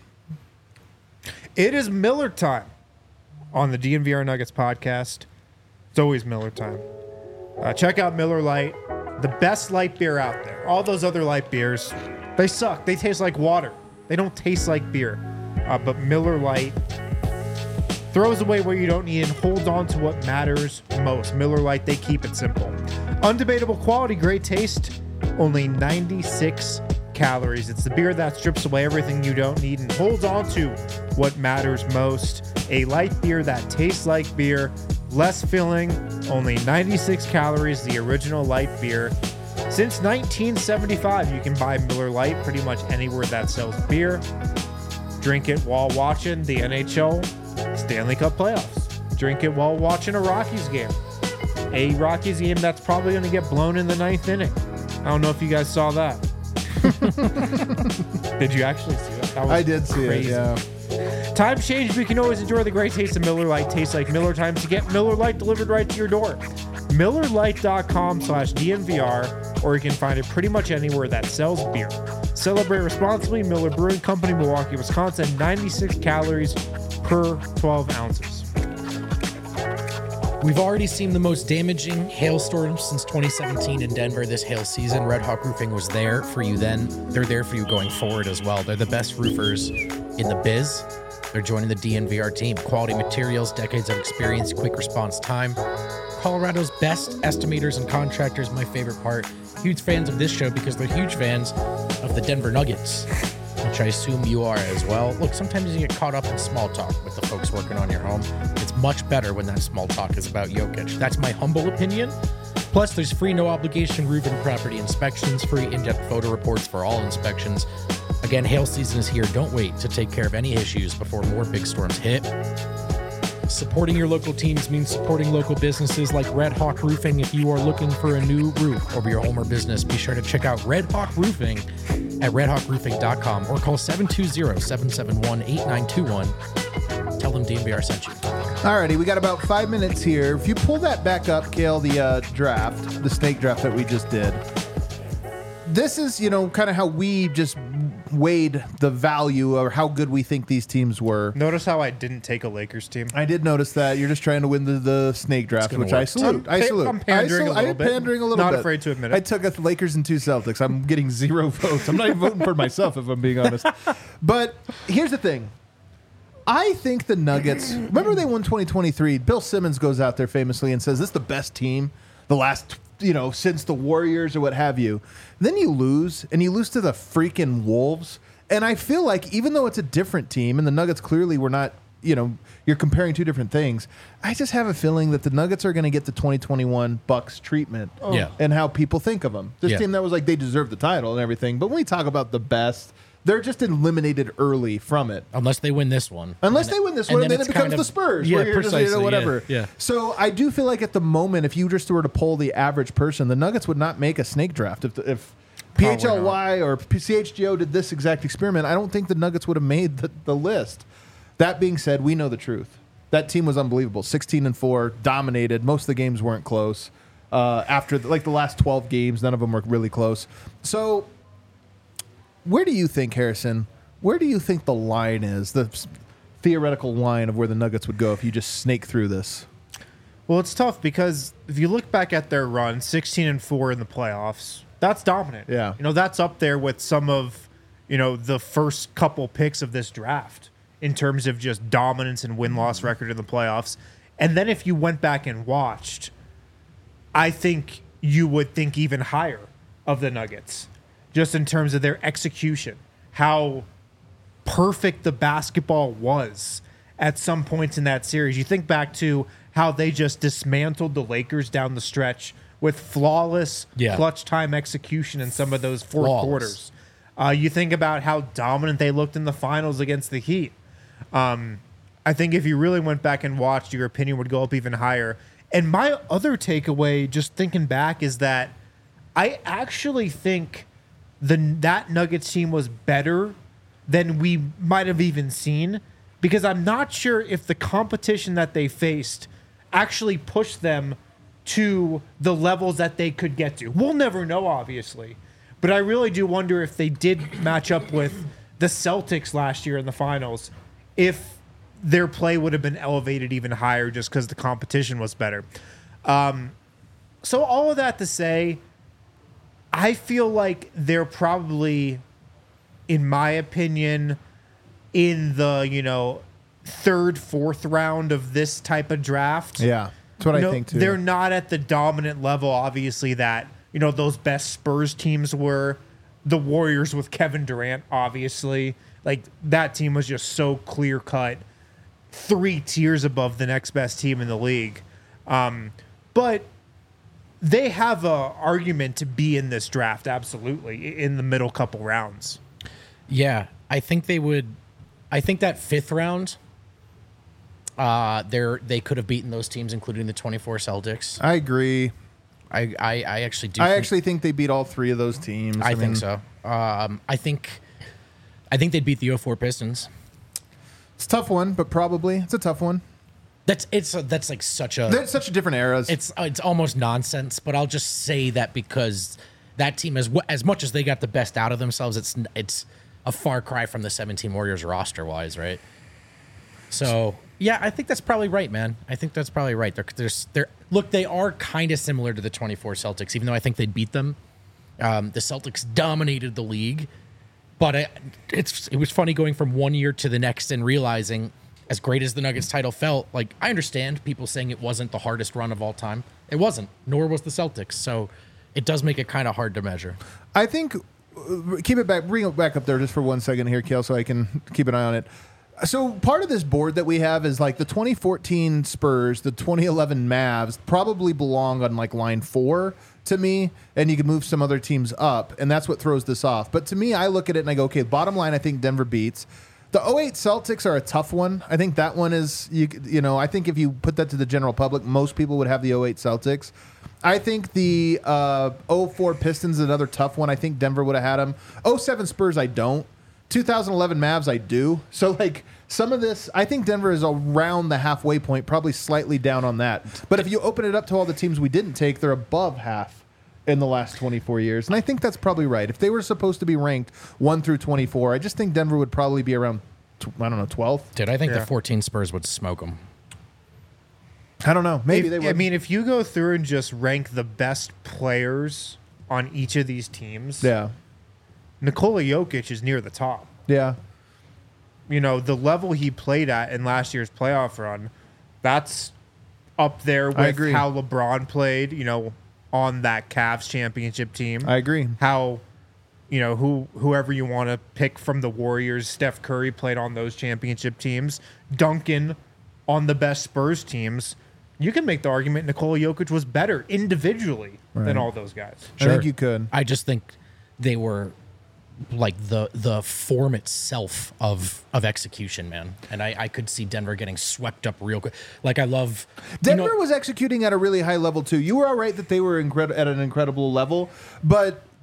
Speaker 2: It is Miller time on the D N V R Nuggets podcast. It's always Miller time. Uh, check out Miller Lite, the best light beer out there. All those other light beers, they suck. They taste like water. They don't taste like beer. Uh, but Miller Lite throws away what you don't need and holds on to what matters most. Miller Lite, they keep it simple. Undebatable quality, great taste, only ninety-six calories. It's the beer that strips away everything you don't need and holds on to what matters most. A light beer that tastes like beer, less filling, only ninety-six calories, the original light beer. Since nineteen seventy-five, you can buy Miller Lite pretty much anywhere that sells beer. Drink it while watching the N H L Stanley Cup playoffs. Drink it while watching a Rockies game. A Rockies game that's probably going to get blown in the ninth inning. I don't know if you guys saw that. Did you actually see that? That was
Speaker 1: I did see
Speaker 2: crazy.
Speaker 1: it, yeah.
Speaker 2: Times change, but you can always enjoy the great taste of Miller Lite. Tastes like Miller time to get Miller Lite delivered right to your door. Miller Lite dot com slash D N V R, or you can find it pretty much anywhere that sells beer. Celebrate responsibly. Miller Brewing Company, Milwaukee, Wisconsin. ninety-six calories per twelve ounces.
Speaker 3: We've already seen the most damaging hailstorm since twenty seventeen in Denver this hail season. Red Hawk Roofing was there for you then. They're there for you going forward as well. They're the best roofers in the biz. They're joining the D N V R team. Quality materials, decades of experience, quick response time. Colorado's best estimators and contractors, my favorite part. Huge fans of this show because they're huge fans of the Denver Nuggets, which I assume you are as well. Look, sometimes you get caught up in small talk with the folks working on your home. It's much better when that small talk is about Jokic. That's my humble opinion. Plus, there's free no-obligation roof and property inspections, free in-depth photo reports for all inspections. Again, hail season is here. Don't wait to take care of any issues before more big storms hit. Supporting your local teams means supporting local businesses like Red Hawk Roofing. If you are looking for a new roof over your home or business, be sure to check out Red Hawk Roofing at red hawk roofing dot com or call seven two zero, seven seven one, eight nine two one. Tell them D N V R sent you.
Speaker 1: Alrighty, we got about five minutes here. If you pull that back up, Kale, the uh, draft, the snake draft that we just did, this is, you know, kind of how we just weighed the value or how good we think these teams were.
Speaker 2: Notice how I didn't take a Lakers team.
Speaker 1: I did notice that. You're just trying to win the, the snake draft,
Speaker 3: gonna
Speaker 1: which I
Speaker 3: work.
Speaker 1: salute.
Speaker 2: I'm
Speaker 1: I
Speaker 2: pa-
Speaker 1: salute.
Speaker 2: I'm pandering
Speaker 1: I
Speaker 2: a little
Speaker 1: I'm
Speaker 2: bit.
Speaker 1: pandering a little
Speaker 2: Not
Speaker 1: bit.
Speaker 2: afraid to admit it.
Speaker 1: I took a Lakers and two Celtics. I'm getting zero votes. I'm not even voting for myself, if I'm being honest. But here's the thing. I think the Nuggets, remember they won twenty twenty-three. Bill Simmons goes out there famously and says, this is the best team the last, you know, since the Warriors or what have you. Then you lose, and you lose to the freaking Wolves. And I feel like even though it's a different team, and the Nuggets clearly were not, you know, you're comparing two different things, I just have a feeling that the Nuggets are going to get the twenty twenty-one Bucks treatment
Speaker 3: Yeah.
Speaker 1: and how people think of them. This
Speaker 3: Yeah.
Speaker 1: team that was like, they deserve the title and everything. But when we talk about the best, they're just eliminated early from it.
Speaker 3: Unless they win this one.
Speaker 1: Unless
Speaker 3: And
Speaker 1: they
Speaker 3: then-
Speaker 1: win this
Speaker 3: and
Speaker 1: one, and then,
Speaker 3: it's
Speaker 1: it becomes
Speaker 3: kind of-
Speaker 1: the Spurs.
Speaker 3: Yeah,
Speaker 1: where you're just, you know,
Speaker 3: precisely, yeah,
Speaker 1: whatever.
Speaker 3: yeah.
Speaker 1: So I do feel like at the moment, if you just were to poll the average person, the Nuggets would not make a snake draft if, if P H L Y or C H G O did this exact experiment, I don't think the Nuggets would have made the, the list. That being said, we know the truth. That team was unbelievable. sixteen and four, dominated. Most of the games weren't close. Uh, after the, like the last twelve games, none of them were really close. So, where do you think, Harrison? Where do you think the line is? The theoretical line of where the Nuggets would go if you just snake through this?
Speaker 2: Well, it's tough because if you look back at their run, sixteen and four in the playoffs, that's dominant.
Speaker 1: Yeah.
Speaker 2: You know, that's up there with some of, you know, the first couple picks of this draft in terms of just dominance and win-loss record in the playoffs. And then if you went back and watched, I think you would think even higher of the Nuggets, just in terms of their execution, how perfect the basketball was at some points in that series. You think back to how they just dismantled the Lakers down the stretch with flawless
Speaker 3: Yeah.
Speaker 2: clutch time execution in some of those fourth
Speaker 3: Flawless.
Speaker 2: quarters. Uh, you think about how dominant they looked in the finals against the Heat. Um, I think if you really went back and watched, your opinion would go up even higher. And my other takeaway, just thinking back, is that I actually think the that Nuggets team was better than we might have even seen, because I'm not sure if the competition that they faced actually pushed them to the levels that they could get to. We'll never know, obviously, but I really do wonder if they did match up with the Celtics last year in the finals, if their play would have been elevated even higher just because the competition was better. Um, so all of that to say, I feel like they're probably, in my opinion, in the, you know, third, fourth round of this type of draft.
Speaker 1: Yeah, that's what
Speaker 2: You
Speaker 1: I
Speaker 2: know,
Speaker 1: think too.
Speaker 2: They're not at the dominant level, obviously, that, you know, those best Spurs teams were. The Warriors with Kevin Durant, obviously. Like, that team was just so clear-cut, three tiers above the next best team in the league. Um, but they have a argument to be in this draft, absolutely, in the middle couple rounds.
Speaker 3: Yeah, I think they would. I think that fifth round, uh, they they could have beaten those teams, including the twenty-four Celtics.
Speaker 1: I agree.
Speaker 3: I, I, I actually do.
Speaker 1: I
Speaker 3: think,
Speaker 1: actually think they beat all three of those teams.
Speaker 3: I, think
Speaker 1: mean,
Speaker 3: so. Um, I think. I think they'd beat the oh four Pistons.
Speaker 1: It's a tough one, but probably it's a tough one.
Speaker 3: That's it's that's like such a.
Speaker 1: They're such different eras.
Speaker 3: It's it's almost nonsense, but I'll just say that because that team, as as much as they got the best out of themselves, it's it's a far cry from the seventeen Warriors roster wise, right? So yeah, I think that's probably right, man. I think that's probably right. They're they're, they're look, they are kind of similar to the twenty-four Celtics, even though I think they'd beat them. Um, the Celtics dominated the league, but it, it's it was funny going from one year to the next and realizing, as great as the Nuggets title felt, like I understand people saying it wasn't the hardest run of all time. It wasn't, nor was the Celtics. So it does make it kind of hard to measure.
Speaker 1: I think keep it back, bring it back up there just for one second here, Kale, so I can keep an eye on it. So part of this board that we have is like the twenty fourteen Spurs, the twenty eleven Mavs probably belong on like line four to me, and you can move some other teams up, and that's what throws this off. But to me, I look at it and I go, okay, bottom line, I think Denver beats. The oh eight Celtics are a tough one. I think that one is, you, you know, I think if you put that to the general public, most people would have the oh eight Celtics. I think the uh, oh four Pistons is another tough one. I think Denver would have had them. oh seven Spurs, I don't. two thousand eleven Mavs, I do. So, like, some of this, I think Denver is around the halfway point, probably slightly down on that. But if you open it up to all the teams we didn't take, they're above half in the last twenty-four years. And I think that's probably right. If they were supposed to be ranked one through twenty-four, I just think Denver would probably be around, I don't know, twelfth.
Speaker 3: Dude, I think
Speaker 2: Yeah.
Speaker 3: the fourteen Spurs would smoke them.
Speaker 1: I don't know. Maybe
Speaker 2: If-
Speaker 1: they would.
Speaker 2: I mean, if you go through and just rank the best players on each of these teams,
Speaker 1: yeah.
Speaker 2: Nikola Jokic is near the top.
Speaker 1: Yeah.
Speaker 2: You know, the level he played at in last year's playoff run, that's up there
Speaker 1: I
Speaker 2: with
Speaker 1: agree.
Speaker 2: how LeBron played, you know, on that Cavs championship team.
Speaker 1: I agree.
Speaker 2: How, you know, who whoever you want to pick from the Warriors, Steph Curry played on those championship teams. Duncan on the best Spurs teams. You can make the argument Nikola Jokic was better individually
Speaker 1: Right.
Speaker 2: than all those guys.
Speaker 1: I think you could.
Speaker 3: I just think they were like the the form itself of of execution, man. And I, I could see Denver getting swept up real quick. Like I love
Speaker 1: Denver
Speaker 3: you know,
Speaker 1: was executing at a really high level too. You were all right that they were incred- at an incredible level, but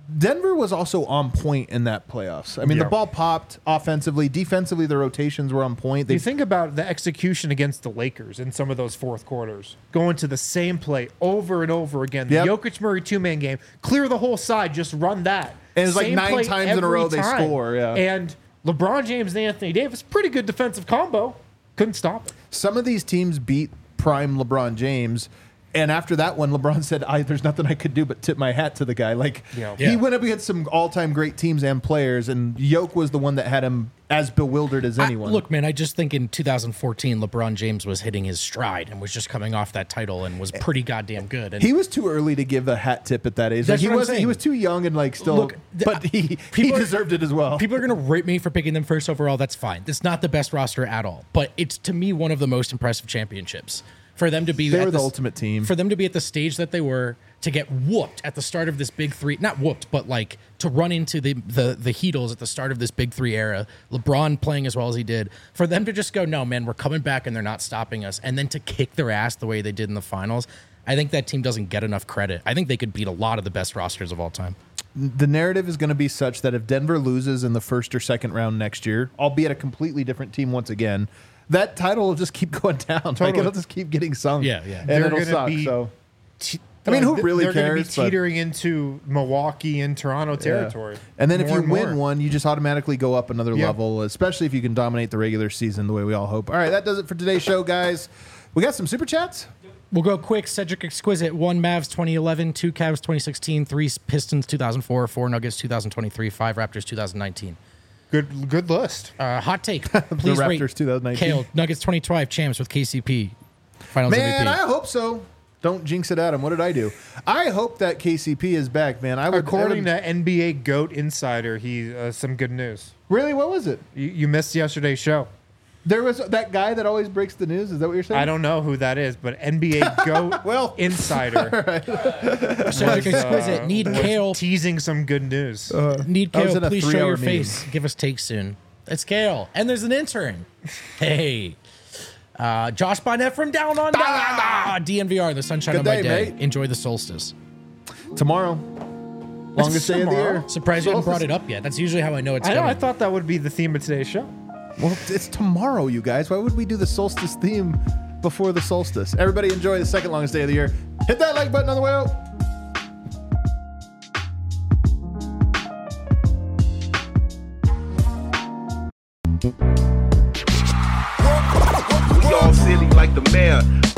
Speaker 1: Denver was also on point in that playoffs. I mean,
Speaker 2: Yeah.
Speaker 1: the ball popped offensively, defensively. The rotations were on point. They
Speaker 2: You think about the execution against the Lakers in some of those fourth quarters, going to the same play over and over again. The
Speaker 1: Yep.
Speaker 2: Jokic Murray two man game, clear the whole side, just run that.
Speaker 1: And it's like
Speaker 2: Same
Speaker 1: nine
Speaker 2: play
Speaker 1: times in a
Speaker 2: every
Speaker 1: row they
Speaker 2: time.
Speaker 1: score, yeah.
Speaker 2: And LeBron James and Anthony Davis, pretty good defensive combo, couldn't stop it.
Speaker 1: some of these teams beat prime LeBron James. And after that one, LeBron said, I, there's nothing I could do but tip my hat to the guy. Like,
Speaker 2: Yeah.
Speaker 1: he
Speaker 3: Yeah.
Speaker 1: went up against some all-time great teams and players, and Yoke was the one that had him as bewildered as
Speaker 3: I-
Speaker 1: anyone.
Speaker 3: look, man, I just think in two thousand fourteen, LeBron James was hitting his stride and was just coming off that title and was pretty goddamn good. And
Speaker 1: he was too early to give a hat tip at that age. Like,
Speaker 3: That's
Speaker 1: he
Speaker 3: what I'm
Speaker 1: was he
Speaker 3: saying.
Speaker 1: was too young and like still,
Speaker 3: Look, the-
Speaker 1: but he, he
Speaker 3: people are-
Speaker 1: deserved it as well.
Speaker 3: people are going to rip me for picking them first overall. That's fine. It's not the best roster at all, but it's to me one of the most impressive championships. For them to be
Speaker 1: They
Speaker 3: at
Speaker 1: were the
Speaker 3: s-
Speaker 1: ultimate team.
Speaker 3: For them to be at the stage that they were, to get whooped at the start of this big three, not whooped, but like to run into the the the Heatles at the start of this big three era, LeBron playing as well as he did, for them to just go, no, man, we're coming back and they're not stopping us, and then to kick their ass the way they did in the finals, I think that team doesn't get enough credit. I think they could beat a lot of the best rosters of all time.
Speaker 1: The narrative is going to be such that if Denver loses in the first or second round next year, albeit a completely different team once again, that title will just keep going down. Like,
Speaker 2: Totally.
Speaker 1: it'll just keep getting sung.
Speaker 3: Yeah, yeah.
Speaker 1: And
Speaker 2: They're
Speaker 1: it'll
Speaker 2: gonna
Speaker 1: suck.
Speaker 2: be-
Speaker 1: So
Speaker 2: Te-
Speaker 1: I mean, who
Speaker 2: like,
Speaker 1: really
Speaker 2: they're gonna
Speaker 1: cares,
Speaker 2: be
Speaker 1: but-
Speaker 2: teetering into Milwaukee and Toronto territory.
Speaker 1: Yeah. And then if
Speaker 2: More
Speaker 1: you
Speaker 2: and
Speaker 1: win
Speaker 2: more.
Speaker 1: one, you just automatically go up another
Speaker 2: Yeah.
Speaker 1: level, especially if you can dominate the regular season the way we all hope. All right, that does it for today's show, guys. We got some super chats.
Speaker 3: We'll go quick. Cedric Exquisite, one Mavs twenty eleven, two Cavs twenty sixteen, three Pistons two thousand four, four Nuggets two thousand twenty-three, five Raptors two thousand nineteen.
Speaker 2: Good, good list.
Speaker 3: Uh, hot take. Please
Speaker 1: Raptors
Speaker 3: rate
Speaker 1: twenty nineteen.
Speaker 3: Kale, Nuggets twenty twelve champs with K C P. Finals
Speaker 1: Man,
Speaker 3: M V P.
Speaker 1: I hope so. Don't jinx it, Adam. What did I do? I hope that K C P is back, man. I would.
Speaker 2: According
Speaker 1: I would-
Speaker 2: to N B A GOAT Insider, he uh, some good news.
Speaker 1: really, what was it?
Speaker 2: You, you missed yesterday's show.
Speaker 1: There was that guy that always breaks the news. Is that what you're saying?
Speaker 2: I don't know who that is, but N B A GOAT
Speaker 1: Well.
Speaker 2: Insider
Speaker 3: Cedric
Speaker 2: was,
Speaker 3: Exquisite,
Speaker 2: uh,
Speaker 3: need
Speaker 2: was
Speaker 3: Kale.
Speaker 2: teasing some good news.
Speaker 3: Need
Speaker 1: I was
Speaker 3: Kale.
Speaker 1: in a
Speaker 3: Please show
Speaker 1: three-hour
Speaker 3: your
Speaker 1: meeting.
Speaker 3: face. Give us takes soon. It's Kale. And there's an intern. Hey. Uh, Josh Barnett from Down Under. D N V R, the sunshine
Speaker 1: Good
Speaker 3: of my
Speaker 1: day,
Speaker 3: day.
Speaker 1: mate.
Speaker 3: Enjoy the solstice.
Speaker 1: Tomorrow, longest day of the
Speaker 2: tomorrow.
Speaker 1: year.
Speaker 3: Surprised you haven't brought
Speaker 1: Solstice.
Speaker 3: it up yet. That's usually how I know it's
Speaker 2: I know.
Speaker 3: coming.
Speaker 2: I thought that would be the theme of today's show.
Speaker 1: Well, it's tomorrow, you guys. Why would we do the solstice theme before the solstice? Everybody enjoy the second longest day of the year. Hit that like button on the way out.
Speaker 5: We all silly like the mayor.